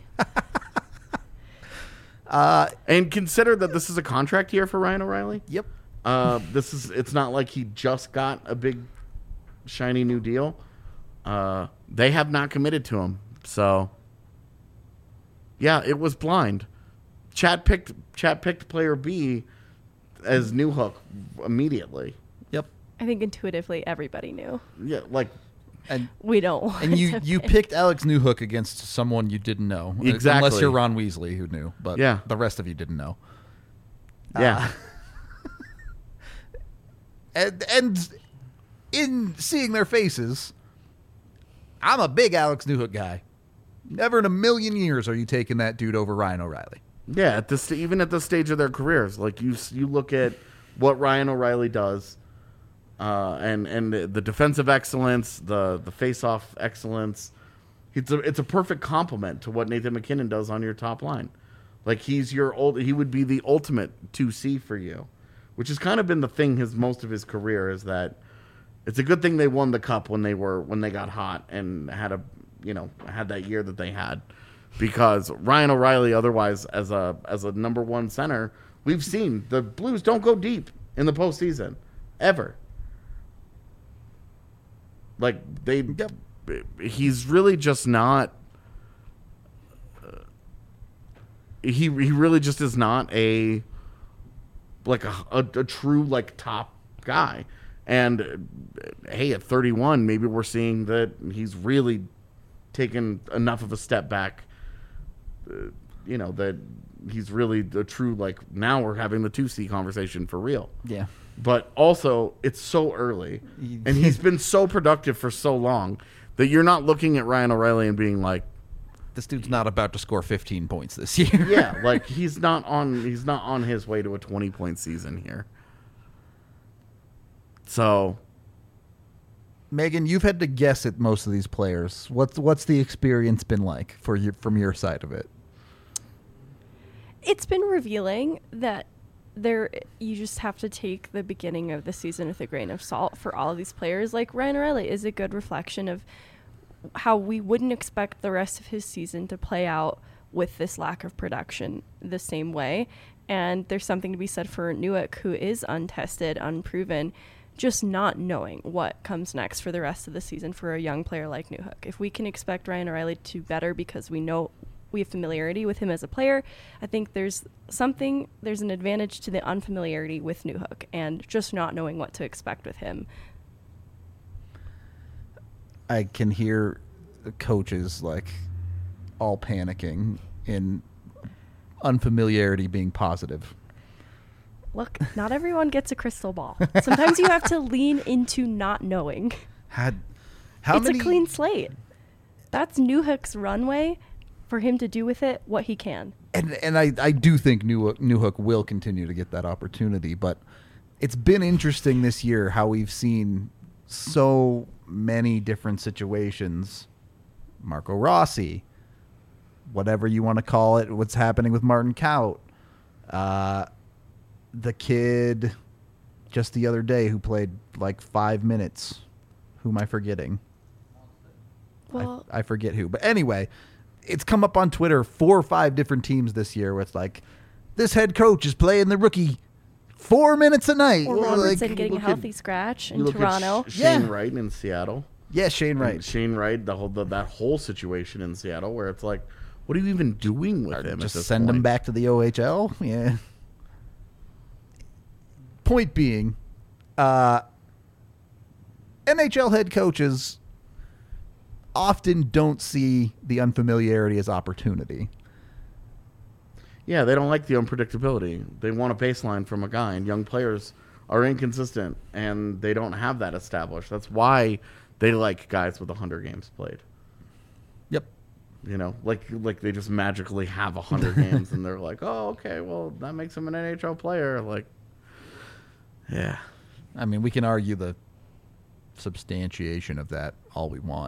uh, And consider that this is a contract year for Ryan O'Reilly. yep. Uh, this is it's not like he just got a big shiny new deal. Uh, they have not committed to him. So yeah, it was blind. Chad picked Chad picked player B as Newhook immediately. Yep. I think intuitively everybody knew. Yeah, like And We don't want and you to you pick. picked Alex Newhook against someone you didn't know. Exactly. Unless you're Ron Weasley, who knew. But Yeah. the rest of you didn't know. yeah. And, and in seeing their faces, I'm a big Alex Newhook guy. Never in a million years are you taking that dude over Ryan O'Reilly. Yeah, at this even at this stage of their careers, like you you look at what Ryan O'Reilly does, uh, and and the defensive excellence, the the face-off excellence. It's a it's a perfect complement to what Nathan McKinnon does on your top line. Like he's your old he would be the ultimate two C for you, which has kind of been the thing his most of his career is that it's a good thing they won the cup when they were when they got hot and had a you know had that year that they had. Because Ryan O'Reilly, otherwise as a as a number one center, we've seen the Blues don't go deep in the postseason ever. Like they, Yep. he's really just not. Uh, he he really just is not a like a, a a true like top guy. And uh, hey, at thirty-one, maybe we're seeing that he's really taken enough of a step back. Uh, you know, that he's really the true, like, now we're having the two C conversation for real. Yeah. But also, it's so early, and he's been so productive for so long that you're not looking at Ryan O'Reilly and being like, This dude's not about to score fifteen points this year. yeah, like he's not on he's not on his way to a twenty point season here. So, Megan, you've had to guess at most of these players. What's what's the experience been like for you from your side of it? It's been revealing that there you just have to take the beginning of the season with a grain of salt for all of these players. Like Ryan O'Reilly is a good reflection of how we wouldn't expect the rest of his season to play out with this lack of production the same way. And there's something to be said for Newhook, who is untested, unproven, just not knowing what comes next for the rest of the season for a young player like Newhook. If we can expect Ryan O'Reilly to better because we know we have familiarity with him as a player, I think there's something, there's an advantage to the unfamiliarity with Newhook and just not knowing what to expect with him. I can hear the coaches like all panicking in unfamiliarity being positive. Look, not everyone gets a crystal ball. Sometimes you have to lean into not knowing. Had how it's many a clean slate. That's Newhook's runway for him to do with it what he can. and and I, I do think Newhook, Newhook will continue to get that opportunity, but it's been interesting this year how we've seen so many different situations. Marco Rossi, whatever you want to call it, what's happening with Martin Kaut, uh, the kid just the other day who played like five minutes. Who am I forgetting? Well, I, I forget who. But anyway, it's come up on Twitter four or five different teams this year with like, this head coach is playing the rookie four minutes a night. or Like, Robertson getting a look at- healthy scratch you in look Toronto. at Sh- Shane Yeah. Wright in Seattle. yeah, Shane And Wright. Shane Wright, the whole the, that whole situation in Seattle, where it's like, what are you even doing with him? Just at this send point? him back to the O H L. Yeah. Point being, uh, N H L head coaches often don't see the unfamiliarity as opportunity. Yeah, they don't like the unpredictability. They want a baseline from a guy, and young players are inconsistent, and they don't have that established. That's why they like guys with one hundred games played. Yep. You know, like like they just magically have one hundred games, and they're like, oh, okay, well, that makes him an N H L player. Like, yeah. I mean, we can argue the substantiation of that all we want,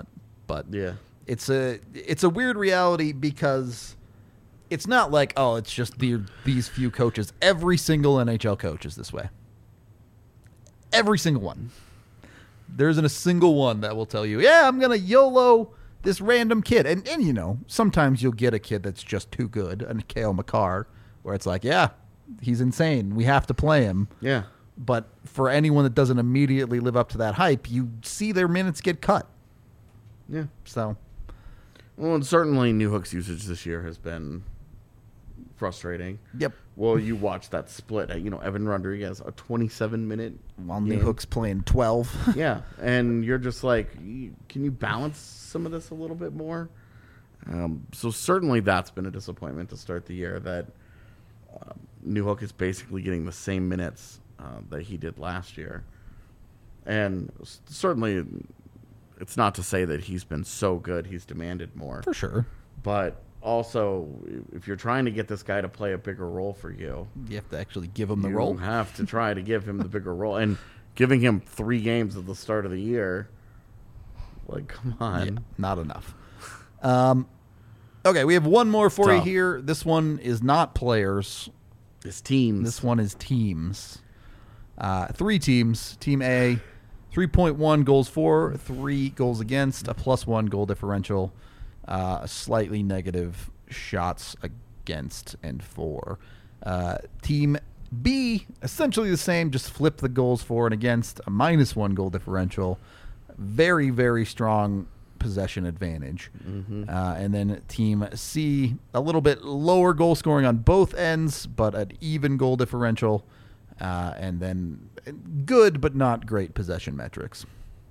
but Yeah. it's a it's a weird reality because it's not like, oh, it's just the, these few coaches. Every single N H L coach is this way. Every single one. There isn't a single one that will tell you, yeah, I'm going to YOLO this random kid. And, and, you know, sometimes you'll get a kid that's just too good, a Kale McCarr, where it's like, yeah, he's insane. We have to play him. Yeah. But for anyone that doesn't immediately live up to that hype, you see their minutes get cut. Yeah. So, Well, and certainly New Hook's usage this year has been frustrating. yep. Well, you watch that split. You know, Evan Rodriguez, a twenty-seven minute. While New game. Hook's playing twelve. Yeah, and you're just like, you- can you balance some of this a little bit more? Um, so certainly that's been a disappointment to start the year, that um, New Hook is basically getting the same minutes uh, that he did last year. And s- certainly it's not to say that he's been so good he's demanded more. For sure. But also, if you're trying to get this guy to play a bigger role for you, You have to actually give him the you role. have to try to give him the bigger role. And giving him three games at the start of the year, like, come on. Yeah, not enough. Um, okay, we have one more for you Tough. here. This one is not players. His teams. This one is teams. Uh, three teams. Team A, three point one goals for, three goals against, a plus one goal differential, uh, a slightly negative shots against, and for. Uh, team B, essentially the same, just flip the goals for and against, a minus one goal differential. Very, very strong possession advantage. Mm-hmm. Uh, and then Team C, a little bit lower goal scoring on both ends, but an even goal differential. Uh, and then good, but not great possession metrics.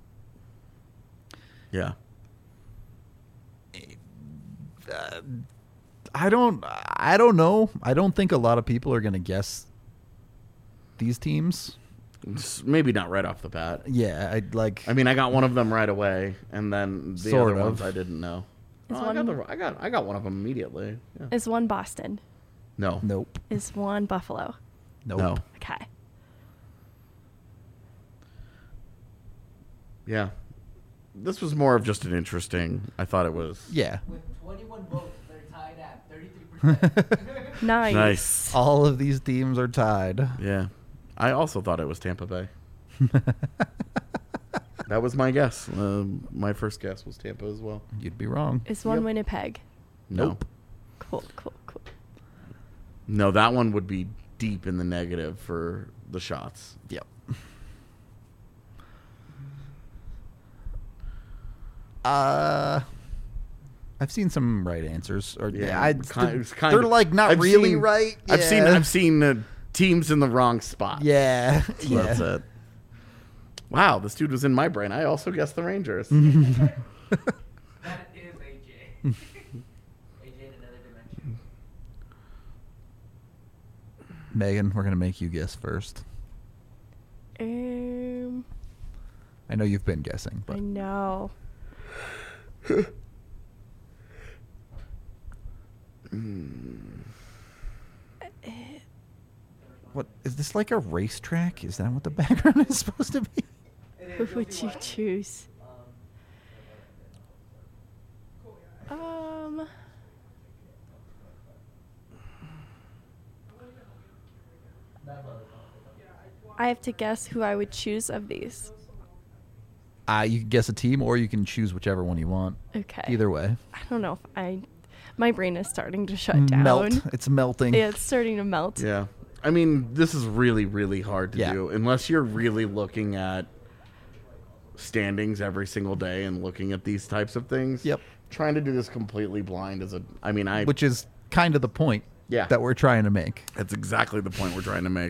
Yeah. Uh, I don't, I don't know. I don't think a lot of people are going to guess these teams. It's maybe not right off the bat. Yeah, I like. I mean, I got one of them right away, and then the Sort other of. ones I didn't know. Is Oh, I, got one- the, I got I got one of them immediately. Yeah. Is one Boston? No. nope, Is one Buffalo? nope. No. Okay. Yeah. This was more of just an interesting. I thought it was. Yeah, With twenty-one votes, they're tied at thirty-three percent. Nice. Nice. all of these teams are tied. Yeah. I also thought it was Tampa Bay. That was my guess. Um, my first guess was Tampa as well. You'd be wrong. Is one Yep. Winnipeg? No. Nope. Cool, cool, cool. No, that one would be deep in the negative for the shots. Yep. Uh, I've seen some right answers, or yeah, I, it's kind- they're, it's kind they're of- like not I've really seen- right. I've seen Yeah. I've seen uh, teams in the wrong spot. Yeah, So yeah. That's it. Wow, this dude was in my brain. I also guessed the Rangers. That is A J. A J in another dimension. Megan, we're gonna make you guess first. Um, I know you've been guessing, but I know. what is this, like a racetrack? Is that what the background is supposed to be? Who would you choose? Um, I have to guess who I would choose of these. Uh, you can guess a team, or you can choose whichever one you want. Okay. Either way, I don't know if I. My brain is starting to shut down. melt. It's melting. Yeah, it's starting to melt. Yeah. I mean, this is really, really hard to Yeah. do unless you're really looking at standings every single day and looking at these types of things. Yep. Trying to do this completely blind is a. I mean, I. Which is kind of the point. Yeah. That we're trying to make. That's exactly the point we're trying to make.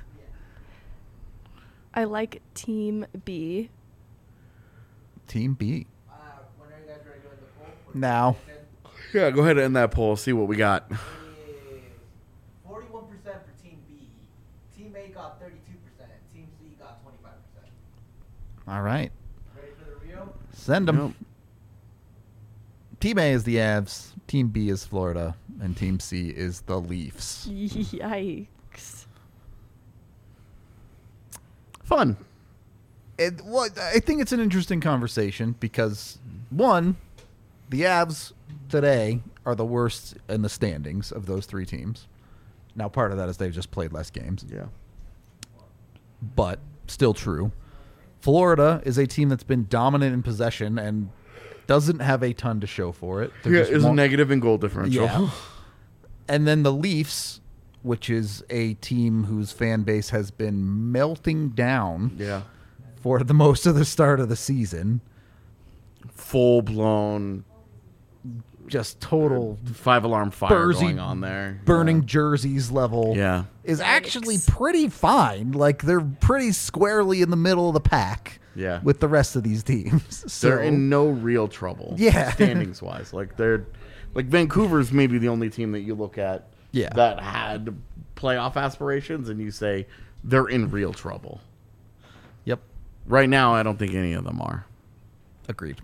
I like Team B. Team B. Uh, when are you guys ready to go in the poll? Now. Yeah, go ahead and end that poll. See what we got. Forty-one percent for Team B. Team A got thirty-two percent. Team C got twenty-five percent. All right. Ready for the Rio? Send them. Nope. Team A is the Avs. Team B is Florida, and Team C is the Leafs. Yikes. Fun. it, well, I think it's an interesting conversation because, one, the Avs today are the worst in the standings of those three teams. Now, part of that is they've just played less games. Yeah. But still true. Florida is a team that's been dominant in possession and doesn't have a ton to show for it. They're Yeah, just is more- negative in goal differential. Yeah. And then the Leafs, which is a team whose fan base has been melting down Yeah. for the most of the start of the season. Full blown Just total five alarm fire Bursy going on there. burning jerseys level Yeah. is actually pretty fine. Like, they're pretty squarely in the middle of the pack Yeah. with the rest of these teams. So, They're in no real trouble. Yeah. Standings wise. Like they're like Vancouver's maybe the only team that you look at Yeah. that had playoff aspirations and you say they're in real trouble. Yep, Right now I don't think any of them are. agreed.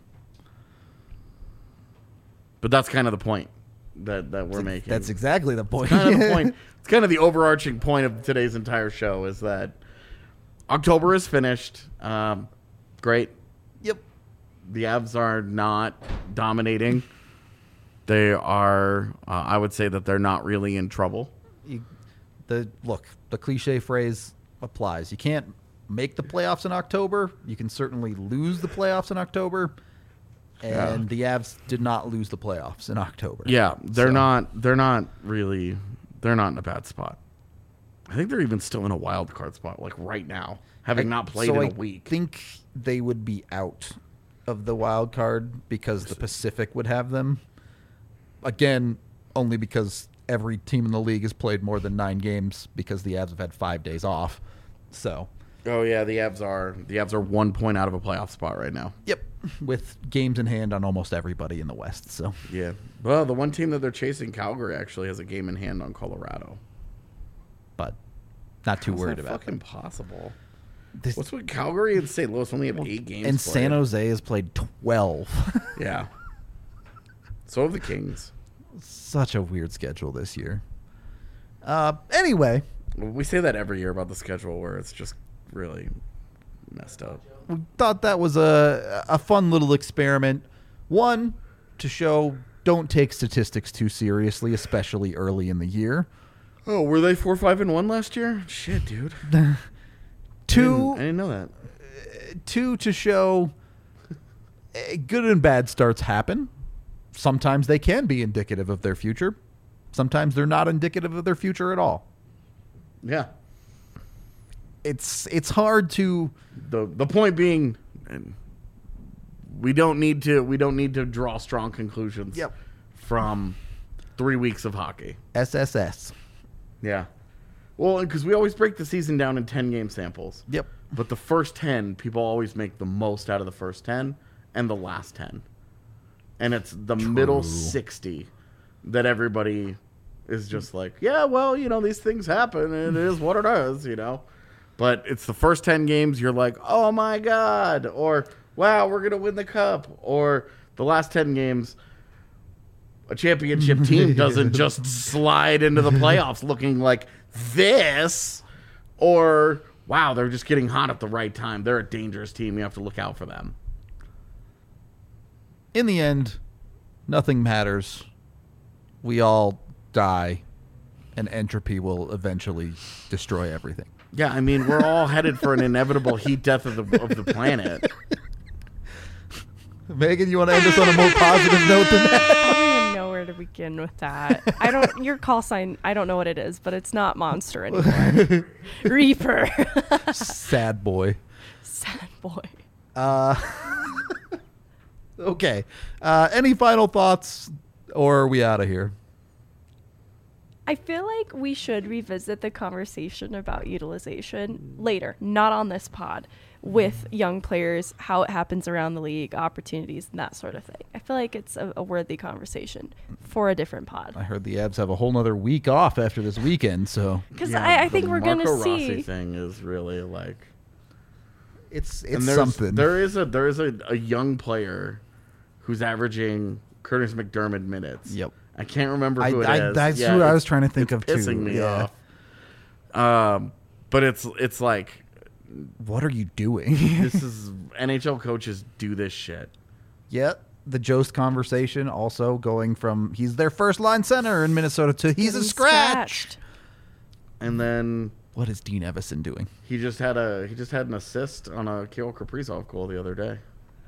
But that's kind of the point that, that we're making. That's exactly the point. kind of the point. It's kind of the overarching point of today's entire show is that October is finished. Um, great. Yep. The Avs are not dominating. They are, uh, I would say that they're not really in trouble. You, the look, the cliche phrase applies. You can't make the playoffs in October. You can certainly lose the playoffs in October. And the Avs did not lose the playoffs in October. Yeah, they're So- not. They're not really. They're not in a bad spot. I think they're even still in a wild card spot, like right now, having not played so in I a week. think they would be out of the wild card because the Pacific would have them. Again, only because every team in the league has played more than nine games because the Avs have had five days off. So, Oh yeah, the Avs are. The Avs are one point out of a playoff spot right now. yep, with games in hand on almost everybody in the West. So, Yeah. Well, the one team that they're chasing, Calgary, actually has a game in hand on Colorado. but not too How's worried that about fucking them. possible. This, What's with Calgary and Saint Louis only have eight games? and played? San Jose has played twelve. Yeah. So have the Kings. Such a weird schedule this year. Uh, anyway, We say that every year about the schedule, where it's just really messed up. we thought that was a a fun little experiment. One, to show don't take statistics too seriously, especially early in the year. Oh, were they four, five, and one last year? Shit, dude. Two, I didn't know that. two to show eh, good and bad starts happen. Sometimes they can be indicative of their future. Sometimes they're not indicative of their future at all. Yeah. It's it's hard to The the point being, and we don't need to we don't need to draw strong conclusions. Yep. From three weeks of hockey. S S S. Yeah. Well, because we always break the season down in ten game samples. Yep. But the first ten, people always make the most out of the first ten and the last ten. And it's the middle sixty that everybody is just like, yeah, well, you know, these things happen and it is what it is, you know. But it's the first ten games you're like, oh my God, or wow, we're going to win the cup. Or the last ten games, a championship team doesn't just slide into the playoffs looking like this. Or wow, they're just getting hot at the right time. They're a dangerous team. You have to look out for them. In the end, nothing matters. We all die, and entropy will eventually destroy everything. Yeah, I mean, we're all headed for an inevitable heat death of the of the planet. Megan, you want to end us on a more positive note than that? I don't even know where to begin with that. I don't. Your call sign. I don't know what it is, but it's not monster anymore. Reaper. Sad boy. Sad boy. Uh, okay. Uh, any final thoughts, or are we out of here? I feel like we should revisit the conversation about utilization later, not on this pod, with young players, how it happens around the league, opportunities, and that sort of thing. I feel like it's a, a worthy conversation for a different pod. I heard the Avs have a whole nother week off after this weekend, so Because Yeah, I, I the think we're going to Marco Rossi see. thing is really like it's and it's there's, something. There is a there is a, a young player who's averaging Curtis McDermott minutes. Yep. I can't remember I- who it is. I- that's Yeah, who I it's- was trying to think it's of, too. Pissing me Yeah. off. Um, but it's it's like What are you doing? This is N H L coaches do this shit. Yeah, the Jost conversation also going from he's their first line center in Minnesota to he's a Getting scratch. scratched. And then What is Dean Evison doing? he just had a he just had an assist on a Kirill Kaprizov goal the other day.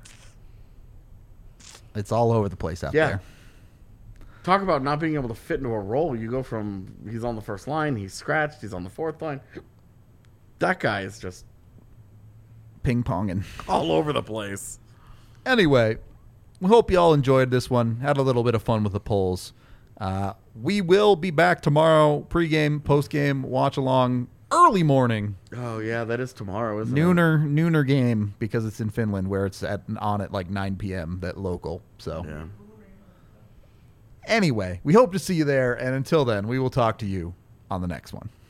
It's all over the place out Yeah. there. Talk about not being able to fit into a role. You go from he's on the first line, he's scratched, he's on the fourth line. That guy is just Ping ponging. all over the place. Anyway, we hope you all enjoyed this one. Had a little bit of fun with the polls. Uh, we will be back tomorrow, pregame, postgame, watch along, early morning, Oh yeah, that is tomorrow, isn't it? nooner, nooner game because it's in Finland where it's at on at like nine p.m. that local. So Yeah. anyway, we hope to see you there, and until then, we will talk to you on the next one.